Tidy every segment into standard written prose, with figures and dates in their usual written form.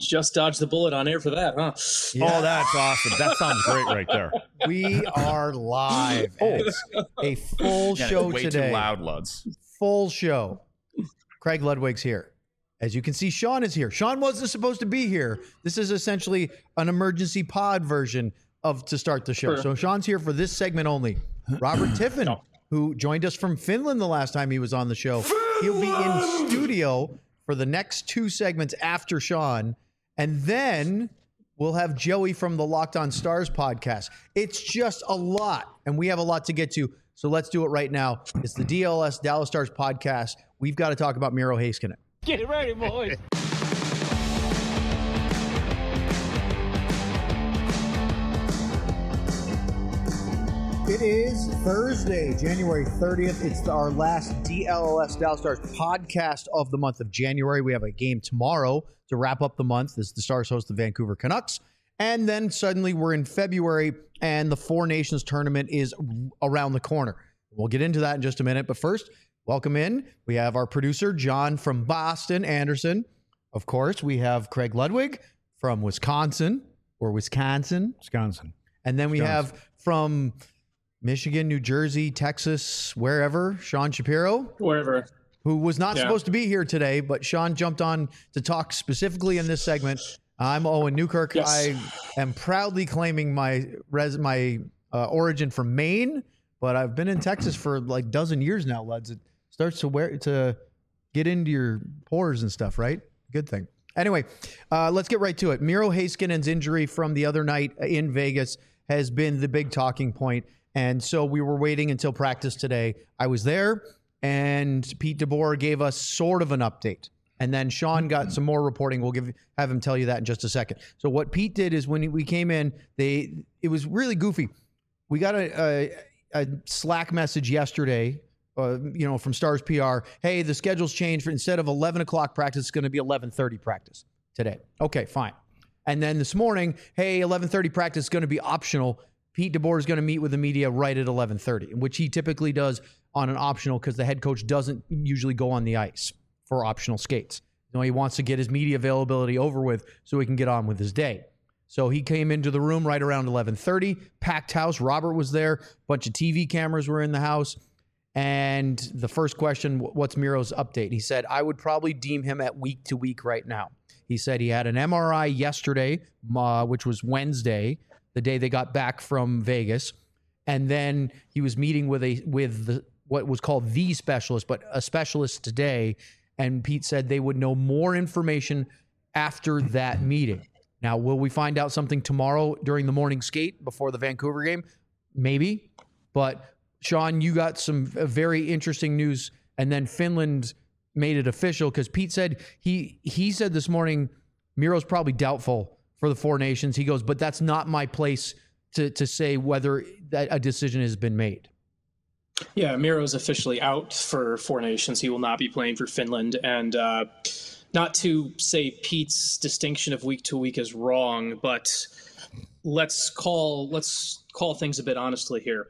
Just dodged the bullet on air for that, huh? Yeah. Oh, that's awesome. That sounds great right there. We are live. It's a full show way today. Too loud, Luds. Full show. Craig Ludwig's here. As you can see, Sean is here. Sean wasn't supposed to be here. This is essentially an emergency pod version of to start the show. Sure. So Sean's here for this segment only. Robert Tiffin, who joined us from Finland the last time he was on the show, he'll be in studio for the next two segments after Sean. And then we'll have Joey from the Locked On Stars podcast. It's just a lot, and we have a lot to get to. So let's do it right now. It's the DLS Dallas Stars podcast. We've got to talk about Miro Heiskanen. Get ready, boys. It is Thursday, January 30th. It's our last DLS Dallas Stars podcast of the month of January. We have a game tomorrow to wrap up the month as the Stars host the Vancouver Canucks. And then suddenly we're in February and the Four Nations tournament is around the corner. We'll get into that in just a minute. But first, welcome in. We have our producer, John from Boston, Anderson. Of course, we have Craig Ludwig from Wisconsin. And then we have from Michigan, New Jersey, Texas, wherever, Sean Shapiro. Wherever. Who was not supposed to be here today, but Sean jumped on to talk specifically in this segment. I'm Owen Newkirk. Yes. I am proudly claiming my origin from Maine, but I've been in Texas for like a dozen years now, lads. It starts to get into your pores and stuff, right? Good thing. Anyway, let's get right to it. Miro Heiskanen's injury from the other night in Vegas has been the big talking point. And so we were waiting until practice today. I was there, and Pete DeBoer gave us sort of an update. And then Sean got some more reporting. We'll have him tell you that in just a second. So what Pete did is when we came in, it was really goofy. We got a Slack message yesterday, from Stars PR. Hey, the schedule's changed. Instead of 11 o'clock practice, it's going to be 11:30 practice today. Okay, fine. And then this morning, hey, 11:30 practice is going to be optional. Pete DeBoer is going to meet with the media right at 11:30, which he typically does on an optional because the head coach doesn't usually go on the ice for optional skates. He wants to get his media availability over with so he can get on with his day. So he came into the room right around 11:30, packed house. Robert was there. A bunch of TV cameras were in the house. And the first question, what's Miro's update? He said, I would probably deem him at week to week right now. He said he had an MRI yesterday, which was Wednesday, the day they got back from Vegas. And then he was meeting with what was called the specialist, but a specialist today. And Pete said they would know more information after that meeting. Now, will we find out something tomorrow during the morning skate before the Vancouver game? Maybe. But Sean, you got some very interesting news. And then Finland made it official because Pete said he said this morning, Miro's probably doubtful for the Four Nations. He goes, but that's not my place to say whether that a decision has been made. Yeah, Miro's officially out for Four Nations. He will not be playing for Finland. And not to say Pete's distinction of week to week is wrong, but let's call things a bit honestly here.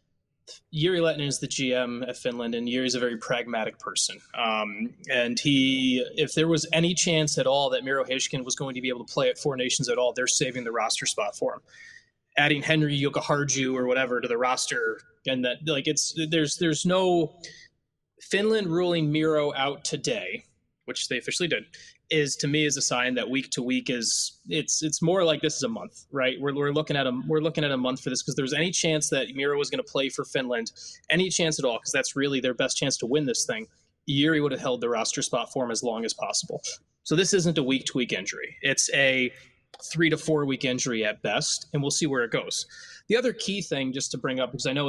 Jiri Lehtinen is the GM at Finland, and Jiri's a very pragmatic person. And if there was any chance at all that Miro Heiskanen was going to be able to play at Four Nations at all, they're saving the roster spot for him. Adding Henri Jokiharju or whatever to the roster, and that there's no Finland ruling Miro out today, which they officially did, is to me is a sign that week to week is it's more like this is a month, right? We're looking at a month for this because there's any chance that Miro was going to play for Finland, any chance at all, because that's really their best chance to win this thing. Jiri would have held the roster spot for him as long as possible. So this isn't a week to week injury. It's a 3 to 4 week injury at best, and we'll see where it goes. The other key thing just to bring up, because I know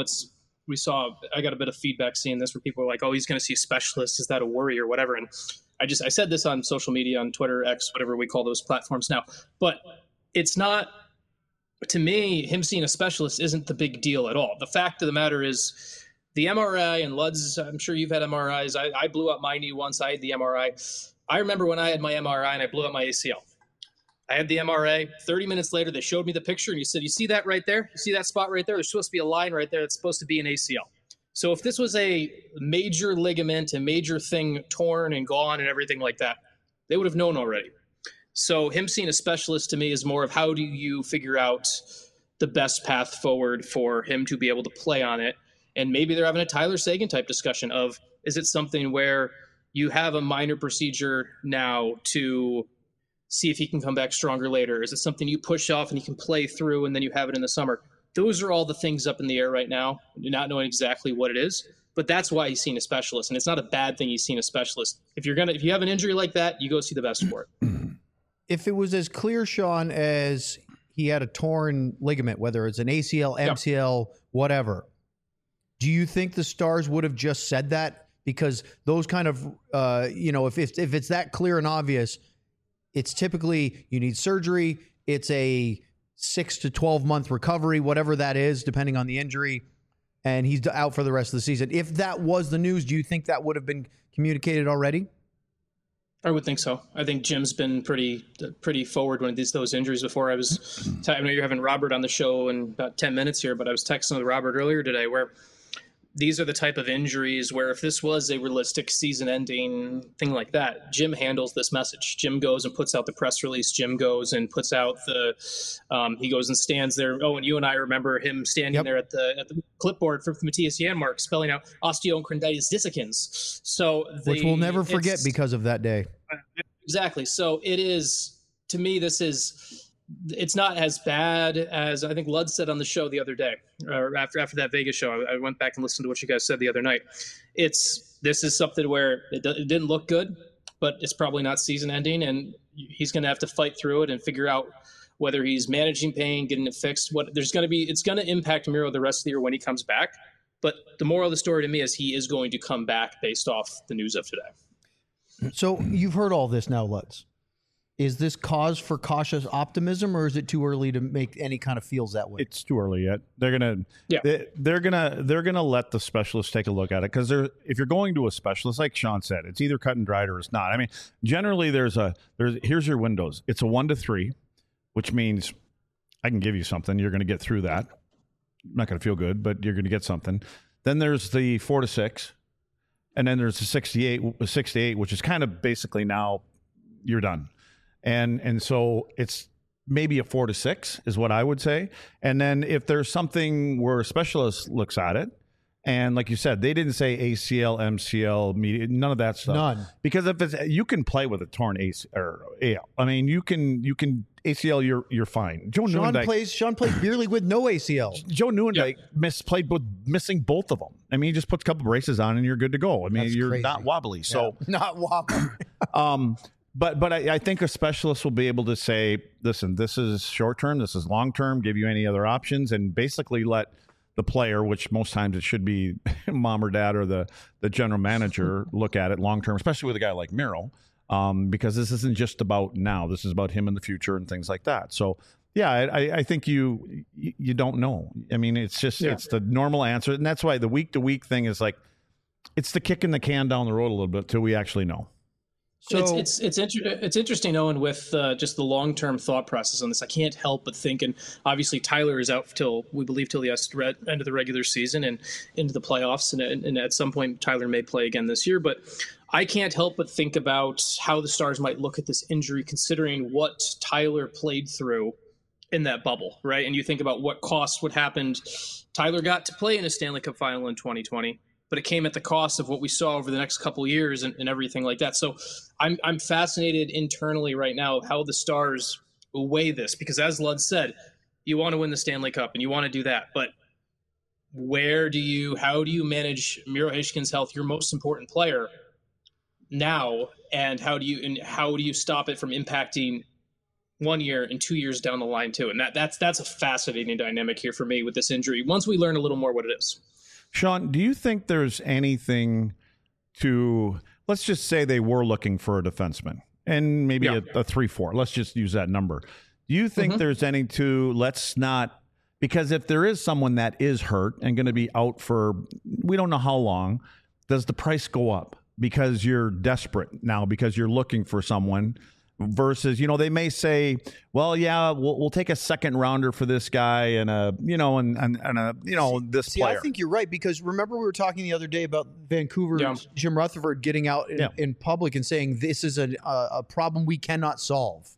I got a bit of feedback seeing this where people are like, oh, he's going to see a specialist. Is that a worry or whatever? And I said this on social media, on Twitter, X, whatever we call those platforms now, but it's not, to me, him seeing a specialist isn't the big deal at all. The fact of the matter is the MRI, and Luds, I'm sure you've had MRIs. I blew up my knee once. I had the MRI. I remember when I had my MRI and I blew up my ACL. I had the MRI. 30 minutes later, they showed me the picture and he said, you see that right there? You see that spot right there? There's supposed to be a line right there that's supposed to be an ACL. So if this was a major ligament, a major thing torn and gone and everything like that, they would have known already. So him seeing a specialist to me is more of how do you figure out the best path forward for him to be able to play on it. And maybe they're having a Tyler Seguin type discussion of, is it something where you have a minor procedure now to see if he can come back stronger later? Is it something you push off and he can play through and then you have it in the summer? Those are all the things up in the air right now, not knowing exactly what it is. But that's why he's seen a specialist. And it's not a bad thing he's seen a specialist. If you have an injury like that, you go see the best for it. If it was as clear, Sean, as he had a torn ligament, whether it's an ACL, MCL, whatever, do you think the Stars would have just said that? Because those kind of, if it's that clear and obvious, it's typically you need surgery. It's a 6 to 12 month recovery, whatever that is, depending on the injury, and he's out for the rest of the season. If that was the news, do you think that would have been communicated already? I would think so. I think Jim's been pretty forward when those injuries before. I know you're having Robert on the show in about 10 minutes here, but I was texting with Robert earlier today where these are the type of injuries where if this was a realistic season-ending thing like that, Jim handles this message. Jim goes and puts out the press release. Jim goes and puts out he goes and stands there. Oh, and you and I remember him standing there at the clipboard for Matthias Janmark spelling out osteochondritis dissecans. Which we'll never forget because of that day. Exactly. So it is, to me, it's not as bad as I think Lud said on the show the other day, or after that Vegas show. I went back and listened to what you guys said the other night. This is something where it didn't look good, but it's probably not season ending, and he's going to have to fight through it and figure out whether he's managing pain, getting it fixed. It's going to impact Miro the rest of the year when he comes back. But the moral of the story to me is he is going to come back based off the news of today. So you've heard all this now, Lutz. Is this cause for cautious optimism, or is it too early to make any kind of feels that way? It's too early yet. They're gonna let the specialist take a look at it, because if you're going to a specialist, like Sean said, it's either cut and dried or it's not. I mean, generally here's your windows. It's a 1 to 3, which means I can give you something. You're going to get through that. Not going to feel good, but you're going to get something. Then there's the 4 to 6, and then there's the 6 to 8, which is kind of basically now you're done. And so it's maybe a 4 to 6 is what I would say. And then if there's something where a specialist looks at it, and like you said, they didn't say ACL, MCL, none of that stuff. None. Because you can play with a torn AL. I mean, you can ACL, you're fine. Sean plays barely with no ACL. Joe Nieuwendyk played missing both of them. I mean, he just puts a couple braces on and you're good to go. I mean, That's you're crazy. not wobbly. So not wobbly. But I think a specialist will be able to say, listen, this is short term, this is long term, give you any other options, and basically let the player, which most times it should be mom or dad or the general manager, look at it long term, especially with a guy like Miro, because this isn't just about now. This is about him in the future and things like that. So, yeah, I think you don't know. I mean, it's just it's the normal answer, and that's why the week to week thing is like it's the kicking the can down the road a little bit till we actually know. So it's interesting, Owen, with just the long-term thought process on this. I can't help but think, and obviously Tyler is out till the end of the regular season and into the playoffs, and at some point Tyler may play again this year. But I can't help but think about how the Stars might look at this injury, considering what Tyler played through in that bubble, right? And you think about what cost would happen. Tyler got to play in a Stanley Cup final in 2020. But it came at the cost of what we saw over the next couple of years and everything like that. So I'm fascinated internally right now how the Stars weigh this, because as Lud said, you want to win the Stanley Cup and you want to do that. But how do you manage Miro Heiskanen health, your most important player, now, and how do you stop it from impacting 1 year and 2 years down the line too? And that's a fascinating dynamic here for me with this injury. Once we learn a little more what it is. Sean, do you think there's anything to, let's just say they were looking for a defenseman and maybe a 3-4. Let's just use that number. Do you think there's any because if there is someone that is hurt and going to be out for, we don't know how long, does the price go up because you're desperate now because you're looking for someone? Versus, they may say, well, yeah, we'll take a second rounder for this guy and this player. I think you're right, because remember we were talking the other day about Vancouver's Jim Rutherford getting out in public and saying this is a problem we cannot solve.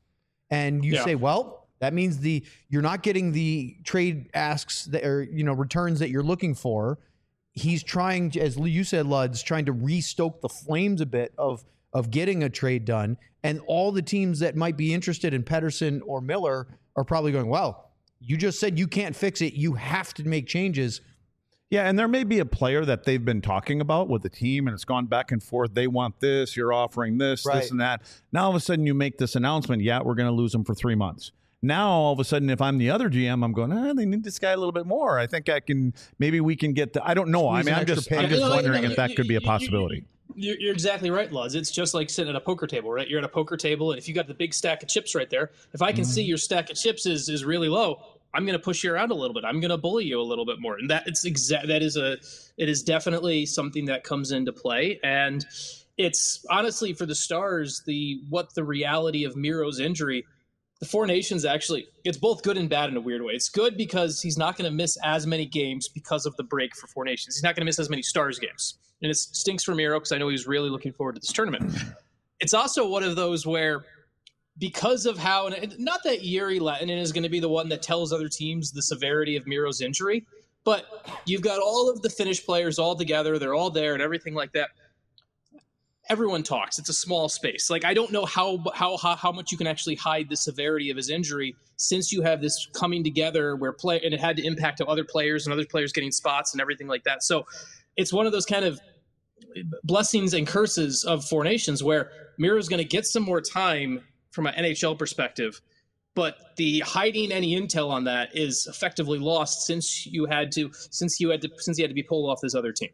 And you say, well, that means you're not getting the trade asks that are, returns that you're looking for. He's trying, as you said, Lud's trying to restoke the flames a bit of getting a trade done. And all the teams that might be interested in Pettersson or Miller are probably going, well, you just said you can't fix it. You have to make changes. Yeah, and there may be a player that they've been talking about with the team, and it's gone back and forth. They want this, you're offering this, this and that. Now, all of a sudden, you make this announcement, we're going to lose him for 3 months. Now, all of a sudden, if I'm the other GM, I'm going, they need this guy a little bit more. I think maybe we can get I don't know. I'm just wondering if that could be a possibility. You're exactly right, Luz. It's just like sitting at a poker table, right? You're at a poker table, and if you got the big stack of chips right there, if I can see your stack of chips is really low, I'm going to push you around a little bit. I'm going to bully you a little bit more. And it is definitely something that comes into play. And it's honestly for the Stars, the reality of Miro's injury, the Four Nations actually, it's both good and bad in a weird way. It's good because he's not going to miss as many games because of the break for Four Nations. He's not going to miss as many Stars games. And it stinks for Miro because I know he was really looking forward to this tournament. It's also one of those where, because of how, and not that Jere Lehtinen is going to be the one that tells other teams the severity of Miro's injury, but you've got all of the Finnish players all together. They're all there and everything like that. Everyone talks. It's a small space. Like, I don't know how much you can actually hide the severity of his injury since you have this coming together and it had to impact other players and other players getting spots and everything like that. So it's one of those kind of blessings and curses of Four Nations where Miro's going to get some more time from an NHL perspective, but the hiding any intel on that is effectively lost since he had to be pulled off this other team.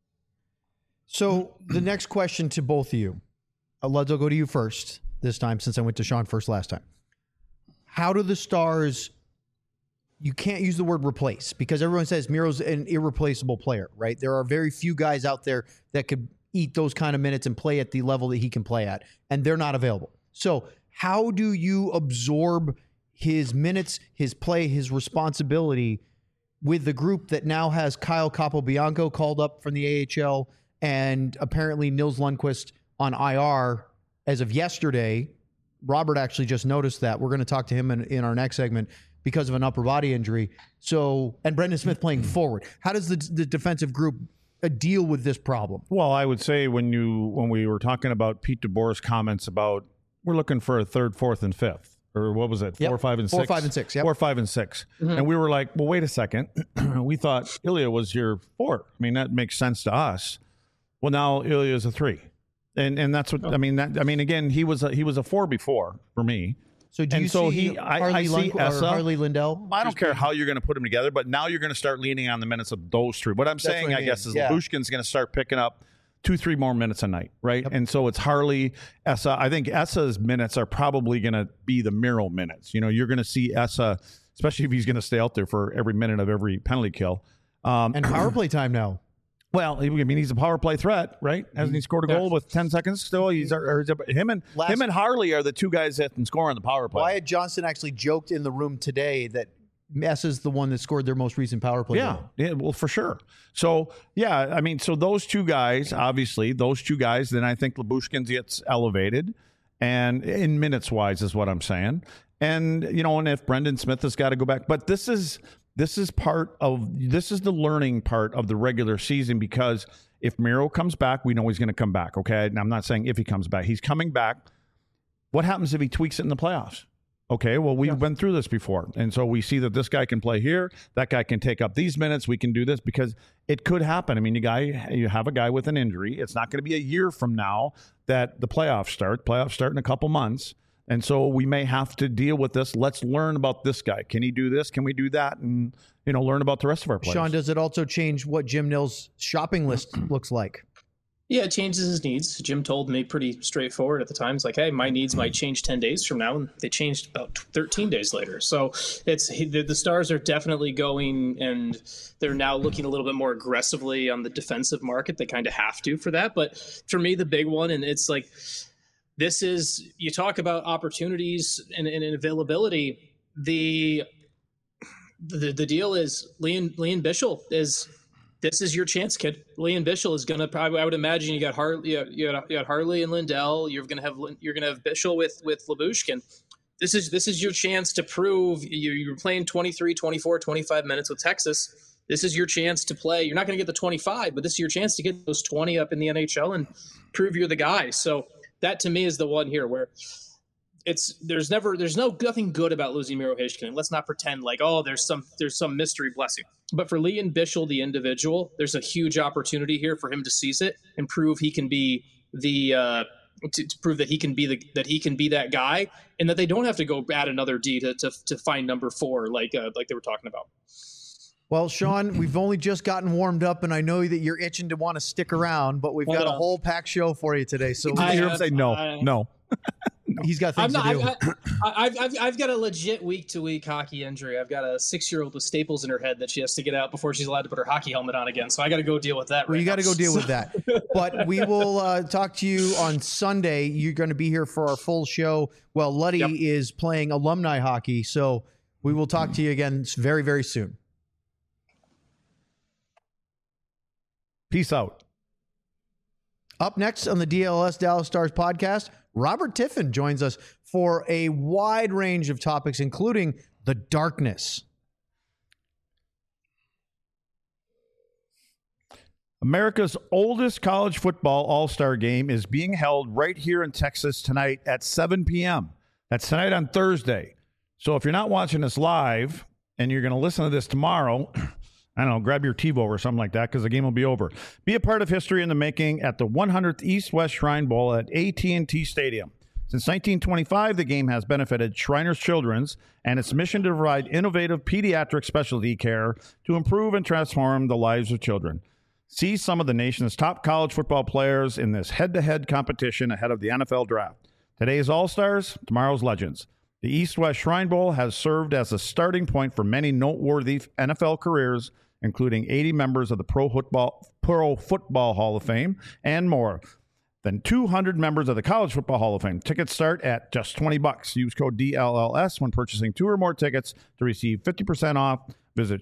So the next question to both of you, Luds, I'll go to you first this time since I went to Sean first last time. How do the Stars? You can't use the word replace because everyone says Miro's an irreplaceable player, right? There are very few guys out there that could eat those kind of minutes and play at the level that he can play at, and they're not available. So how do you absorb his minutes, his play, his responsibility with the group that now has Kyle Capobianco called up from the AHL and apparently Nils Lundqvist on IR as of yesterday? Robert actually just noticed that. We're going to talk to him in our next segment because of an upper body injury. So, and Brendan Smith playing forward. How does the defensive group deal with this problem? Well, I would say when we were talking about Pete DeBoer's comments about we're looking for a third, fourth, and fifth, or what was it? 4, 5, and 6. 4, 5, and 6. Yep. 4, 5, and 6. Mm-hmm. And we were like, well, wait a second. We thought Ilya was your 4. I mean, that makes sense to us. Well, now Ilya is a 3, and that's what I mean. Again, he was a 4 before for me. So do you see Harley Lindell? I don't care how you're going to put them together, but now you're going to start leaning on the minutes of those 3. What I'm saying, I guess, is Lyubushkin's going to start picking up 2-3 more minutes a night, right? Yep. And so it's Harley, Essa. I think Essa's minutes are probably going to be the Miro minutes. You're going to see Essa, especially if he's going to stay out there for every minute of every penalty kill. And power play time now. Well, he's a power play threat, right? Hasn't he scored a goal with 10 seconds still? Him and Harley are the two guys that can score on the power play. Wyatt Johnston actually joked in the room today that Essa's the one that scored their most recent power play goal. Yeah, well, for sure. So, so those two guys, obviously, then I think Lyubushkin gets elevated, and in minutes-wise is what I'm saying. And, and if Brendan Smith has got to go back. But this is the learning part of the regular season, because if Miro comes back, we know he's going to come back, okay? And I'm not saying if he comes back. He's coming back. What happens if he tweaks it in the playoffs? Okay, well, we've been through this before. And so we see that this guy can play here. That guy can take up these minutes. We can do this because it could happen. I mean, you have a guy with an injury. It's not going to be a year from now that the playoffs start. Playoffs start in a couple months. And so we may have to deal with this. Let's learn about this guy. Can he do this? Can we do that? And, learn about the rest of our players. Sean, does it also change what Jim Nill's shopping list looks like? Yeah, it changes his needs. Jim told me pretty straightforward at the time. It's like, hey, my needs might change 10 days from now. And they changed about 13 days later. So the Stars are definitely going, and they're now looking a little bit more aggressively on the defensive market. They kind of have to for that. But for me, the big one, and it's like, you talk about opportunities and availability. The deal is Lian Bichsel this is your chance, kid. Lian Bichsel is going to probably, I would imagine you got Harley and Lindell. You're going to have Bichsel with Lyubushkin. This is your chance to prove you're playing 23, 24, 25 minutes with Texas. This is your chance to play. You're not going to get the 25, but this is your chance to get those 20 up in the NHL and prove you're the guy. So that to me is the one here where there's nothing good about losing Miro Heiskanen. Let's not pretend like, oh, there's some mystery blessing. But for Liam Bichsel, the individual, there's a huge opportunity here for him to seize it and prove he can be to prove that he can be that guy, and that they don't have to go add another D to find number 4 like they were talking about. Well, Sean, we've only just gotten warmed up, and I know that you're itching to want to stick around, but we've got a whole packed show for you today. So you hear him say no. He's got things to do. I've got a legit week-to-week hockey injury. I've got a 6-year-old with staples in her head that she has to get out before she's allowed to put her hockey helmet on again. So I got to go deal with that. Well, you got to go deal with that. But we will talk to you on Sunday. You're going to be here for our full show. Well, Luddy is playing alumni hockey, so we will talk to you again very, very soon. Peace out. Up next on the DLS Dallas Stars podcast, Robert Tiffin joins us for a wide range of topics, including the darkness. America's oldest college football all-star game is being held right here in Texas tonight at 7 p.m. That's tonight on Thursday. So if you're not watching this live and you're going to listen to this tomorrow, I don't know, grab your TiVo or something like that because the game will be over. Be a part of history in the making at the 100th East-West Shrine Bowl at AT&T Stadium. Since 1925, the game has benefited Shriners Children's and its mission to provide innovative pediatric specialty care to improve and transform the lives of children. See some of the nation's top college football players in this head-to-head competition ahead of the NFL Draft. Today's All-Stars, tomorrow's Legends. The East-West Shrine Bowl has served as a starting point for many noteworthy NFL careers, including 80 members of the Pro Football Hall of Fame and more than 200 members of the College Football Hall of Fame. Tickets start at just $20. Use code DLLS when purchasing 2 or more tickets to receive 50% off. Visit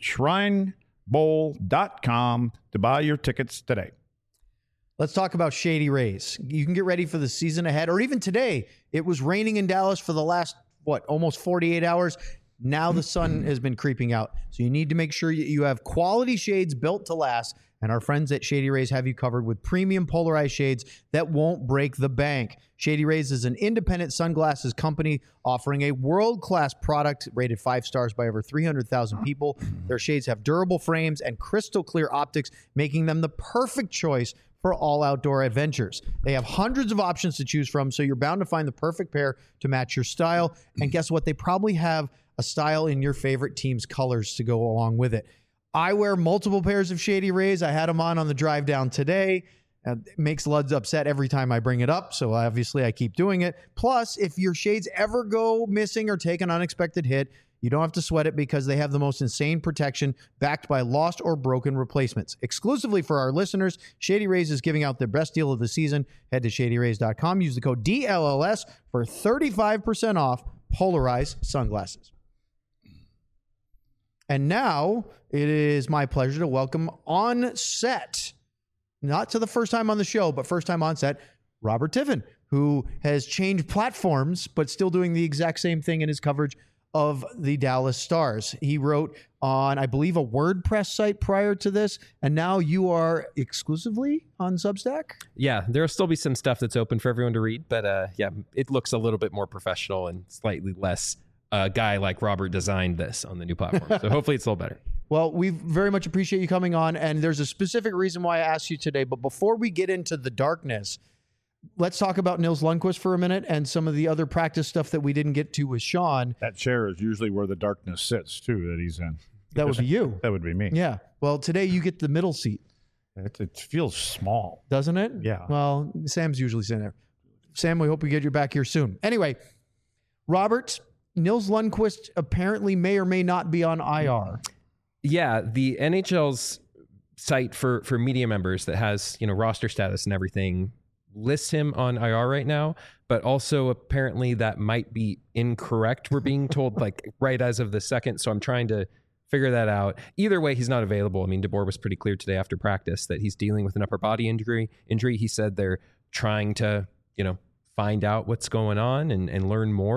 shrinebowl.com to buy your tickets today. Let's talk about Shady Rays. You can get ready for the season ahead, or even today. It was raining in Dallas for the last, almost 48 hours. Now the sun has been creeping out. So you need to make sure you have quality shades built to last. And our friends at Shady Rays have you covered with premium polarized shades that won't break the bank. Shady Rays is an independent sunglasses company offering a world-class product rated 5 stars by over 300,000 people. Their shades have durable frames and crystal clear optics, making them the perfect choice for all outdoor adventures. They have hundreds of options to choose from, so you're bound to find the perfect pair to match your style. And guess what? They probably have a style in your favorite team's colors to go along with it. I wear multiple pairs of Shady Rays. I had them on the drive down today. It makes Luds upset every time I bring it up, so obviously I keep doing it. Plus, if your shades ever go missing or take an unexpected hit, you don't have to sweat it because they have the most insane protection backed by lost or broken replacements. Exclusively for our listeners, Shady Rays is giving out their best deal of the season. Head to shadyrays.com. Use the code DLLS for 35% off polarized sunglasses. And now it is my pleasure to welcome on set, not to the first time on the show, but first time on set, Robert Tiffin, who has changed platforms, but still doing the exact same thing in his coverage of the Dallas Stars. He wrote on, I believe, a WordPress site prior to this, and now you are exclusively on Substack? Yeah, there'll still be some stuff that's open for everyone to read, but yeah, it looks a little bit more professional and slightly less guy like Robert designed this on the new platform. So hopefully it's a little better. Well, we very much appreciate you coming on, and there's a specific reason why I asked you today. But before we get into the darkness, let's talk about Nils Lundkvist for a minute and some of the other practice stuff that we didn't get to with Sean. That chair is usually where the darkness sits, too, that he's in. That would be you. That would be me. Yeah. Well, today you get the middle seat. It feels small. Doesn't it? Yeah. Well, Sam's usually sitting there. Sam, we hope we get you back here soon. Anyway, Robert, Nils Lundkvist apparently may or may not be on IR. Yeah, the NHL's site for media members that has, roster status and everything lists him on IR right now, but also apparently that might be incorrect. We're being told right as of the second. So I'm trying to figure that out. Either way, he's not available. I mean, DeBoer was pretty clear today after practice that he's dealing with an upper body injury. He said they're trying to, find out what's going on and learn more.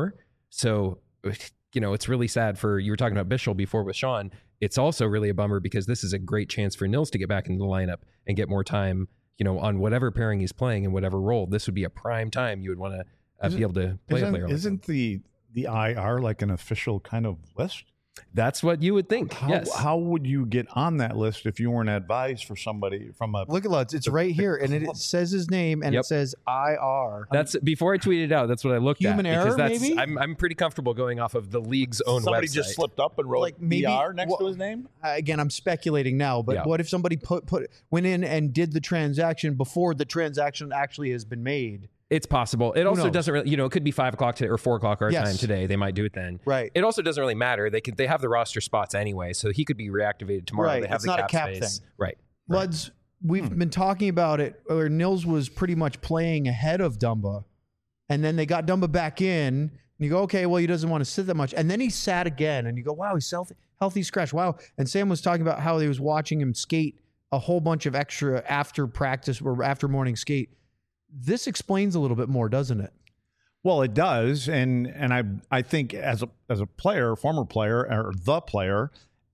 So, it's really sad you were talking about Bischel before with Sean. It's also really a bummer because this is a great chance for Nils to get back into the lineup and get more time, on whatever pairing he's playing in whatever role. This would be a prime time you would want to be able to play a player. Isn't the IR like an official kind of list? That's what you would think. Yes. How would you get on that list if you weren't advised for somebody from a... Look at Lutz. It's right here. And it says his name and it says IR. That's before I tweeted it out. That's what I looked Human at. error, maybe? I'm pretty comfortable going off of the league's own Somebody website. just slipped up and wrote Like maybe- IR next to his name? Again, I'm speculating now, but what if somebody went in and did the transaction before the transaction actually has been made? It's possible. It also knows? doesn't really, it could be 5 o'clock today or 4 o'clock our time today. They might do it then. Right. It also doesn't really matter. They have the roster spots anyway, so he could be reactivated tomorrow. Right. They have It's the not a cap cap space. thing. Right. Luds, we've been talking about it, where Nils was pretty much playing ahead of Dumba, and then they got Dumba back in, and you go, okay, well, he doesn't want to sit that much, and then he sat again, and you go, wow, he's healthy scratch, wow. And Sam was talking about how he was watching him skate a whole bunch of extra after practice or after morning skate. This explains a little bit more, doesn't it? Well, it does, and I think as a player, former player, or the player,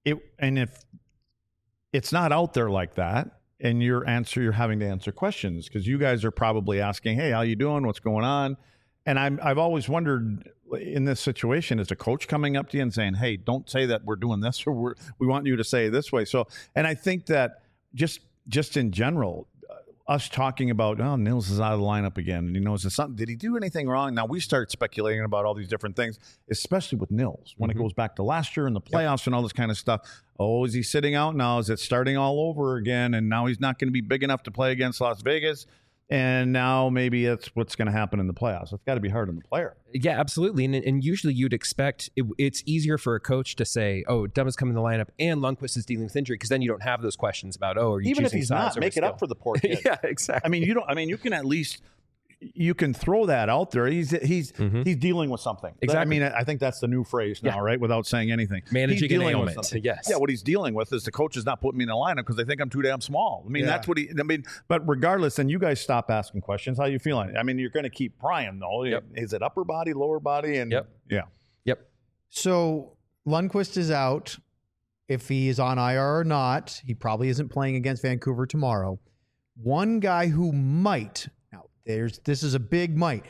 if it's not out there like that, and you're having to answer questions because you guys are probably asking, "Hey, how you doing? What's going on?" And I've always wondered in this situation, is the coach coming up to you and saying, "Hey, don't say that we're doing this, or we want you to say it this way." So, and I think that just in general, us talking about, oh, Nils is out of the lineup again, and he knows something. Did he do anything wrong? Now we start speculating about all these different things, especially with Nils when it goes back to last year and the playoffs and all this kind of stuff. Oh, is he sitting out now? Is it starting all over again? And now he's not going to be big enough to play against Las Vegas. And now maybe it's what's going to happen in the playoffs. It's got to be hard on the player. Yeah, absolutely. And usually you'd expect it's easier for a coach to say, oh, Dumba's coming in the lineup and Lundqvist is dealing with injury, because then you don't have those questions about, oh, are you even choosing if he's sides not, make it up for the poor kid. Yeah, exactly. I mean, you can at least you can throw that out there. He's dealing with something. Exactly. I mean, I think that's the new phrase now, right? Without saying anything, managing an ailment. Yes. Yeah. What he's dealing with is the coach is not putting me in the lineup because they think I'm too damn small. I mean, that's what but regardless, then you guys stop asking questions. How you feeling? I mean, you're going to keep prying though. Yep. Is it upper body, lower body? And Yep. So Lundqvist is out. If he is on IR or not, he probably isn't playing against Vancouver tomorrow. One guy who might. This is a big might.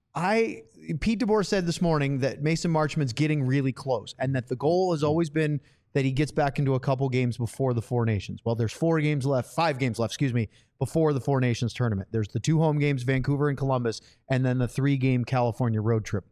Pete DeBoer said this morning that Mason Marchment's getting really close, and that the goal has always been that he gets back into a couple games before the Four Nations. Well, there's 5 games left, before the Four Nations tournament. There's the 2 home games, Vancouver and Columbus, and then the 3-game California road trip.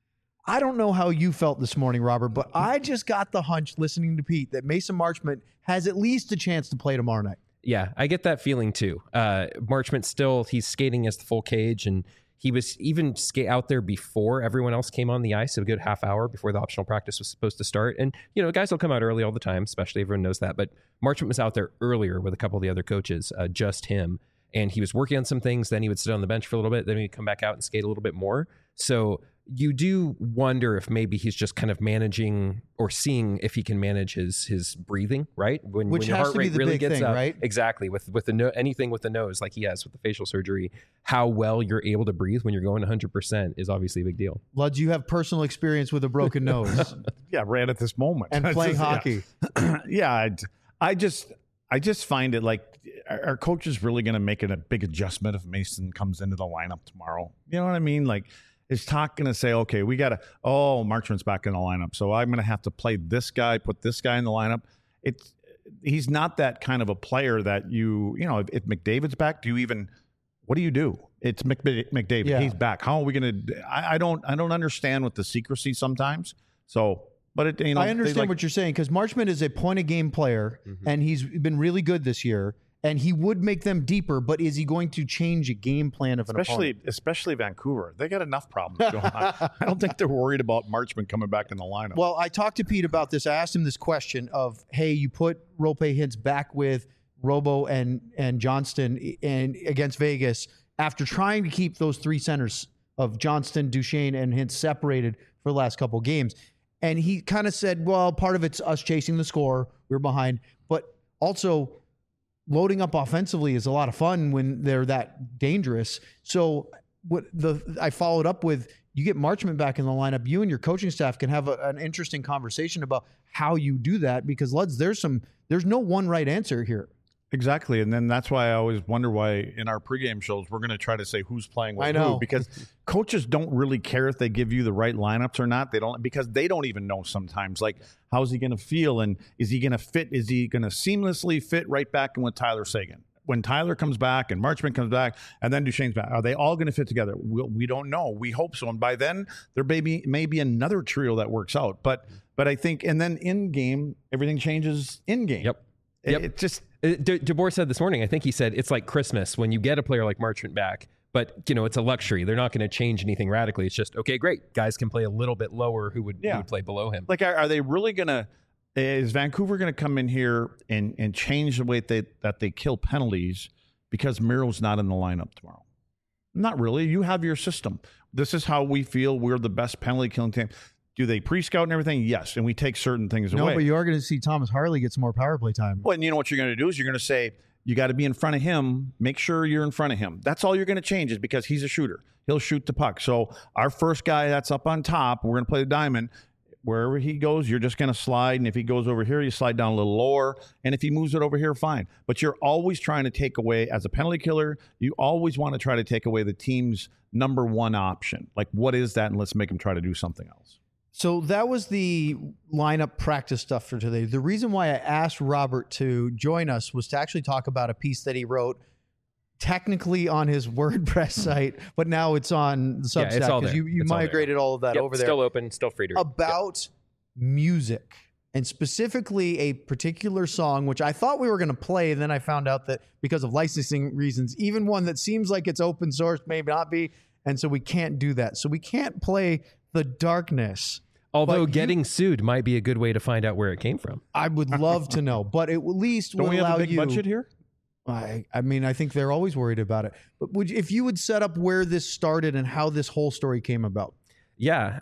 I don't know how you felt this morning, Robert, but I just got the hunch listening to Pete that Mason Marchment has at least a chance to play tomorrow night. Yeah, I get that feeling too. Marchment he's skating as the full cage, and he was even out there before everyone else came on the ice, a good half hour before the optional practice was supposed to start. And, guys will come out early all the time, especially everyone knows that. But Marchment was out there earlier with a couple of the other coaches, just him. And he was working on some things. Then he would sit on the bench for a little bit. Then he'd come back out and skate a little bit more. So you do wonder if maybe he's just kind of managing or seeing if he can manage his breathing, right? When your heart rate really gets up, right? Exactly. With the anything with the nose, like he has with the facial surgery, how well you're able to breathe when you're going 100% is obviously a big deal. Luds, you have personal experience with a broken nose. Yeah, right at this moment. And playing hockey. Yeah, I just find it like, our coach is really going to make it a big adjustment if Mason comes into the lineup tomorrow. You know what I mean? Like, is Talk going to say, okay, we got to, Marchment's back in the lineup, so I'm going to have to play this guy, put this guy in the lineup. He's not that kind of a player that if McDavid's back, what do you do? It's McDavid. Yeah. He's back. How are we going to, I don't understand with the secrecy sometimes. So, but I understand what you're saying, because Marchment is a point-a-game player, and he's been really good this year. And he would make them deeper, but is he going to change a game plan of an opponent? Especially Vancouver. They got enough problems going on. I don't think they're worried about Marchment coming back in the lineup. Well, I talked to Pete about this. I asked him this question of, hey, you put Roope Hintz back with Robo and Johnston against Vegas after trying to keep those 3 centers of Johnston, Duchesne, and Hintz separated for the last couple games. And he kind of said, well, part of it's us chasing the score. We're behind. But also, loading up offensively is a lot of fun when they're that dangerous. So I followed up with, you get Marchment back in the lineup, you and your coaching staff can have an interesting conversation about how you do that, because there's no one right answer here. Exactly. And then that's why I always wonder why in our pregame shows, we're going to try to say who's playing with who, because coaches don't really care if they give you the right lineups or not. Because they don't even know sometimes, like, how's he going to feel? And is he going to fit? Is he going to seamlessly fit right back in with Tyler Seguin? When Tyler comes back and Marchment comes back and then Duchesne's back, are they all going to fit together? We don't know. We hope so. And by then there may be another trio that works out. But I think, and then in game, everything changes in game. Yep. It just, DeBoer said this morning, I think he said, it's like Christmas when you get a player like Marchment back, but it's a luxury. They're not going to change anything radically. It's just, okay, great. Guys can play a little bit lower who would play below him. Like, are they really going to, is Vancouver going to come in here and change the way that they kill penalties because Miro's not in the lineup tomorrow? Not really. You have your system. This is how we feel we're the best penalty killing team. Do they pre-scout and everything? Yes. And we take certain things away. No, but you are going to see Thomas Harley get some more power play time. Well, and you know what you're going to do is you're going to say, you got to be in front of him. Make sure you're in front of him. That's all you're going to change, is because he's a shooter. He'll shoot the puck. So our first guy that's up on top, we're going to play the diamond. Wherever he goes, you're just going to slide. And if he goes over here, you slide down a little lower. And if he moves it over here, fine. But you're always trying to take away, as a penalty killer, you always want to try to take away the team's number one option. Like, what is that? And let's make him try to do something else. So that was the lineup practice stuff for today. The reason why I asked Robert to join us was to actually talk about a piece that he wrote, technically on his WordPress site, but now it's on the Substack, because you migrated all of that over there. Still open, still free to read. About music, and specifically a particular song, which I thought we were going to play, and then I found out that because of licensing reasons, even one that seems like it's open source may not be, and so we can't do that. So we can't play The Darkness. Although getting sued might be a good way to find out where it came from. I would love to know, but it at least will allow you. Don't we have a big budget here? I mean, I think they're always worried about it. But if you would set up where this started and how this whole story came about. Yeah.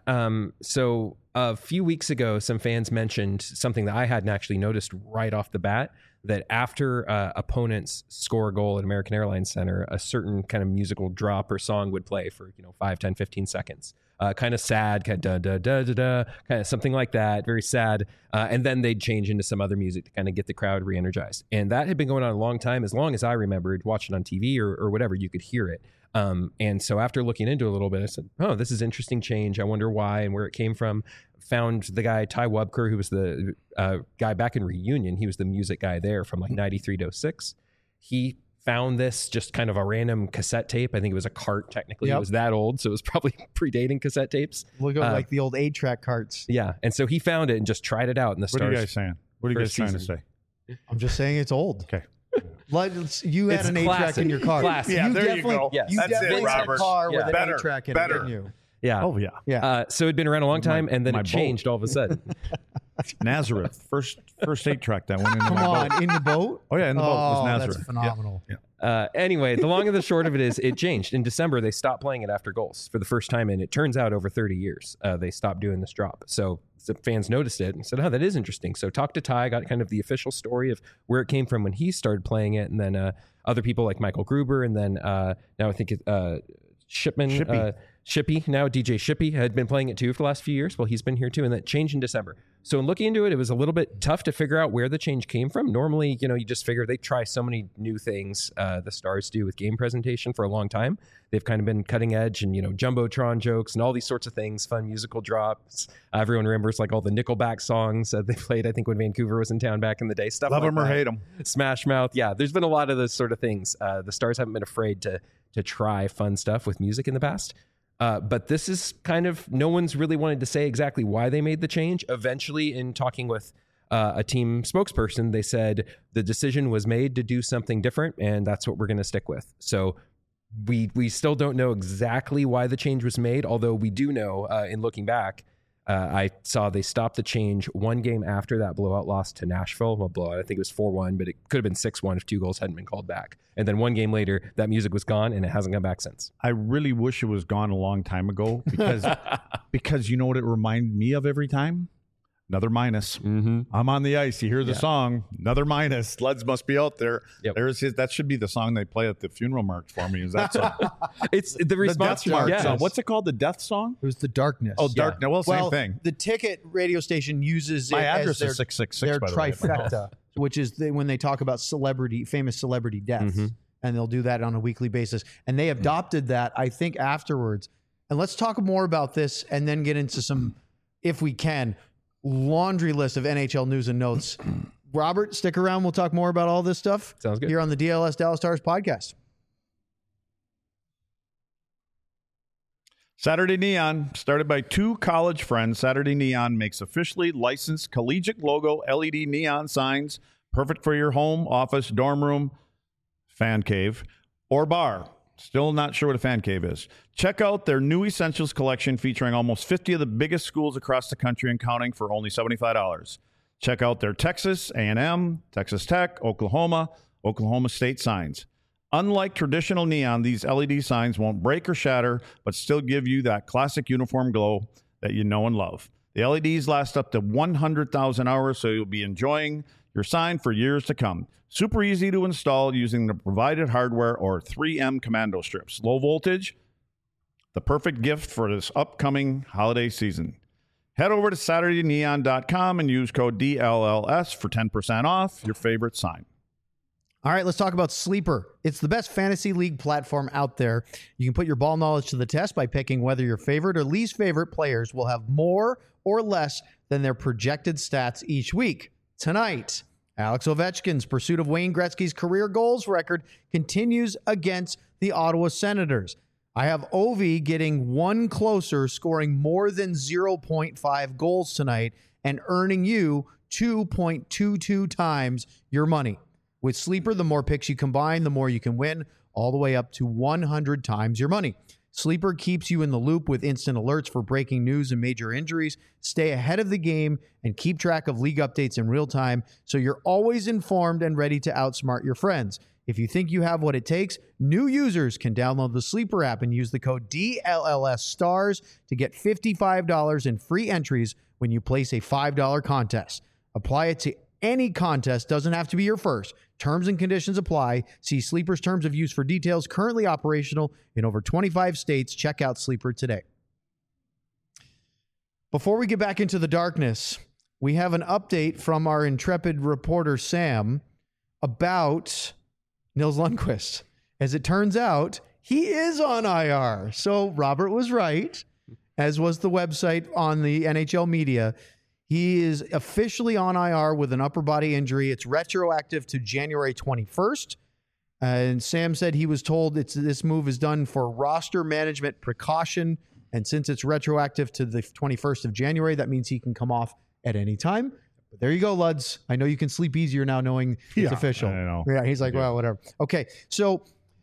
So a few weeks ago, some fans mentioned something that I hadn't actually noticed right off the bat, that after opponents score a goal at American Airlines Center, a certain kind of musical drop or song would play for 5, 10, 15 seconds. Kind of sad, kind of da da da da da, kind of something like that, very sad. And then they'd change into some other music to kind of get the crowd re-energized. And that had been going on a long time, as long as I remembered watching on TV or whatever, you could hear it. And so after looking into it a little bit, I said, oh, this is interesting change. I wonder why and where it came from. Found the guy, Ty Wubker, who was the guy back in Reunion. He was the music guy there from like 93 to 06. He found this just kind of a random cassette tape. I think it was a cart, technically. Yep. It was that old, so it was probably predating cassette tapes. Look at like the old 8-track carts. Yeah, and so he found it and just tried it out in the Stars. What are you guys saying? What are you guys trying to say? I'm just saying it's old. Okay. You had an 8-track in your car. Classic. Yeah, there you go. Yes. You definitely had a car with an 8-track in it, didn't you? Yeah. Oh, yeah. Yeah. So it'd been around a long time, and then it changed all of a sudden. Nazareth, first 8-track that went into my boat. Come on, in the boat? Oh, yeah, in the boat. It was Nazareth. That's phenomenal. Yeah. Anyway, the long and the short of it is it changed. In December, they stopped playing it after goals for the first time, and it turns out over 30 years, they stopped doing this drop. So the fans noticed it and said, oh, that is interesting. So talked to Ty, got kind of the official story of where it came from when he started playing it, and then other people like Michael Gruber, and then now I think Shippy, now DJ Shippy, had been playing it too for the last few years. Well, he's been here too, and that changed in December. So in looking into it, it was a little bit tough to figure out where the change came from. Normally, you just figure they try so many new things, the Stars do with game presentation for a long time. They've kind of been cutting edge and, Jumbotron jokes and all these sorts of things, fun musical drops. Everyone remembers like all the Nickelback songs they played, I think, when Vancouver was in town back in the day. Stuff Love like them or hate them. Smash Mouth. Yeah, there's been a lot of those sort of things. The Stars haven't been afraid to try fun stuff with music in the past. But this is kind of, no one's really wanted to say exactly why they made the change. Eventually, in talking with a team spokesperson, they said the decision was made to do something different, and that's what we're going to stick with. So we still don't know exactly why the change was made, although we do know, in looking back, I saw they stopped the change one game after that blowout loss to Nashville. Well, blowout, I think it was 4-1, but it could have been 6-1 if 2 goals hadn't been called back. And then one game later, that music was gone, and it hasn't come back since. I really wish it was gone a long time ago, because you know what it reminded me of every time? Another minus. Mm-hmm. I'm on the ice. You hear the song. Another minus. Leds must be out there. Yep. That should be the song they play at the funeral march for me. Is that song? It's the response. The death march song. Yes. What's it called? The death song? It was the Darkness. Oh, Darkness. Well, same thing. The Ticket radio station uses My it address as their, is 666. their by the way. trifecta, which is when they talk about famous celebrity deaths, and they'll do that on a weekly basis. And they adopted that, I think, afterwards. And let's talk more about this and then get into some, if we can, laundry list of NHL news and notes. Robert, stick around. We'll talk more about all this stuff. Sounds good. Here on the DLS Dallas Stars podcast. Saturday Neon, started by two college friends. Saturday Neon makes officially licensed collegiate logo LED neon signs, perfect for your home, office, dorm room, fan cave, or bar. Still not sure what a fan cave is. Check out their new Essentials collection featuring almost 50 of the biggest schools across the country and counting for only $75. Check out their Texas A&M, Texas Tech, Oklahoma State signs. Unlike traditional neon, these LED signs won't break or shatter, but still give you that classic uniform glow that you know and love. The LEDs last up to 100,000 hours, so you'll be enjoying your sign for years to come. Super easy to install using the provided hardware or 3M commando strips. Low voltage, the perfect gift for this upcoming holiday season. Head over to SaturdayNeon.com and use code DLLS for 10% off your favorite sign. All right, let's talk about Sleeper. It's the best fantasy league platform out there. You can put your ball knowledge to the test by picking whether your favorite or least favorite players will have more or less than their projected stats each week. Tonight, Alex Ovechkin's pursuit of Wayne Gretzky's career goals record continues against the Ottawa Senators. I have Ovi getting one closer, scoring more than 0.5 goals tonight and earning you 2.22 times your money. With Sleeper, the more picks you combine, the more you can win, all the way up to 100 times your money. Sleeper keeps you in the loop with instant alerts for breaking news and major injuries. Stay ahead of the game and keep track of league updates in real time so you're always informed and ready to outsmart your friends. If you think you have what it takes, new users can download the Sleeper app and use the code DLLSSTARS to get $55 in free entries when you place a $5 contest. Apply it to any contest, doesn't have to be your first. Terms and conditions apply. See Sleeper's terms of use for details. Currently operational in over 25 states. Check out Sleeper today. Before we get back into the darkness, we have an update from our intrepid reporter, Sam, about Nils Lundkvist. As it turns out, he is on IR. So Robert was right, as was the website on the NHL media. He is officially on IR with an upper body injury. It's retroactive to January 21st. And Sam said he was told this move is done for roster management precaution. And since it's retroactive to the 21st of January, that means he can come off at any time. But there you go, Luds. I know you can sleep easier now knowing it's official. I know. Yeah, he's like, well, whatever. Okay, so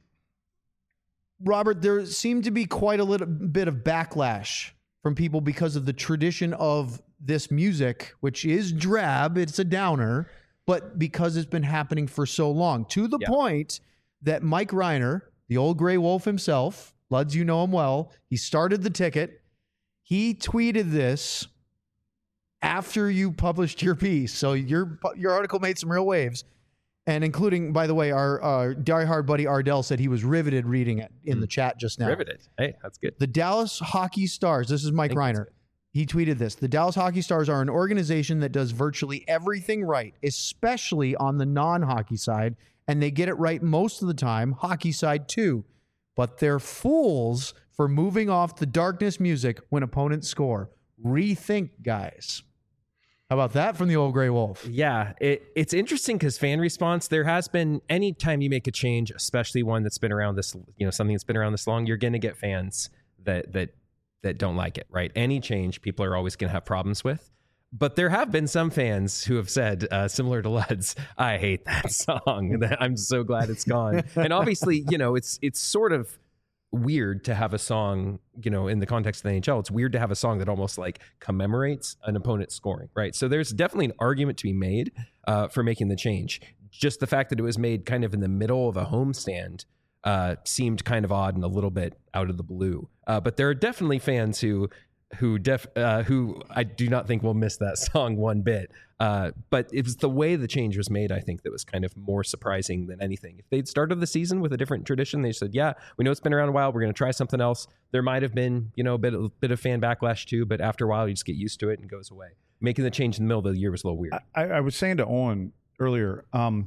Robert, there seemed to be quite a little bit of backlash from people because of the tradition of this music, which is drab, it's a downer, but because it's been happening for so long, to the point that Mike Reiner, the old gray wolf himself, Luds, you know him well, he started the Ticket. He tweeted this after you published your piece. So your article made some real waves, and including, by the way, our diehard buddy Ardell said he was riveted reading it in the chat just now. Riveted. Hey, that's good. The Dallas Hockey Stars, this is Mike Reiner. He tweeted this. The Dallas Hockey Stars are an organization that does virtually everything right, especially on the non-hockey side, and they get it right most of the time, hockey side too. But they're fools for moving off the darkness music when opponents score. Rethink, guys. How about that from the old gray wolf? Yeah, it's interesting because fan response, there has been, anytime you make a change, especially one that's been around this, something that's been around this long, you're going to get fans that don't like it, right? Any change, people are always going to have problems with. But there have been some fans who have said, similar to Luds, I hate that song. I'm so glad it's gone. And obviously, it's sort of weird to have a song, in the context of the NHL, it's weird to have a song that almost like commemorates an opponent scoring, right? So there's definitely an argument to be made for making the change. Just the fact that it was made kind of in the middle of a homestand seemed kind of odd and a little bit out of the blue. But there are definitely fans who who I do not think will miss that song one bit. But it was the way the change was made, I think, that was kind of more surprising than anything. If they'd started the season with a different tradition, they said, yeah, we know it's been around a while, we're going to try something else. There might have been, a bit of fan backlash too, but after a while you just get used to it and it goes away. Making the change in the middle of the year was a little weird. I was saying to Owen earlier,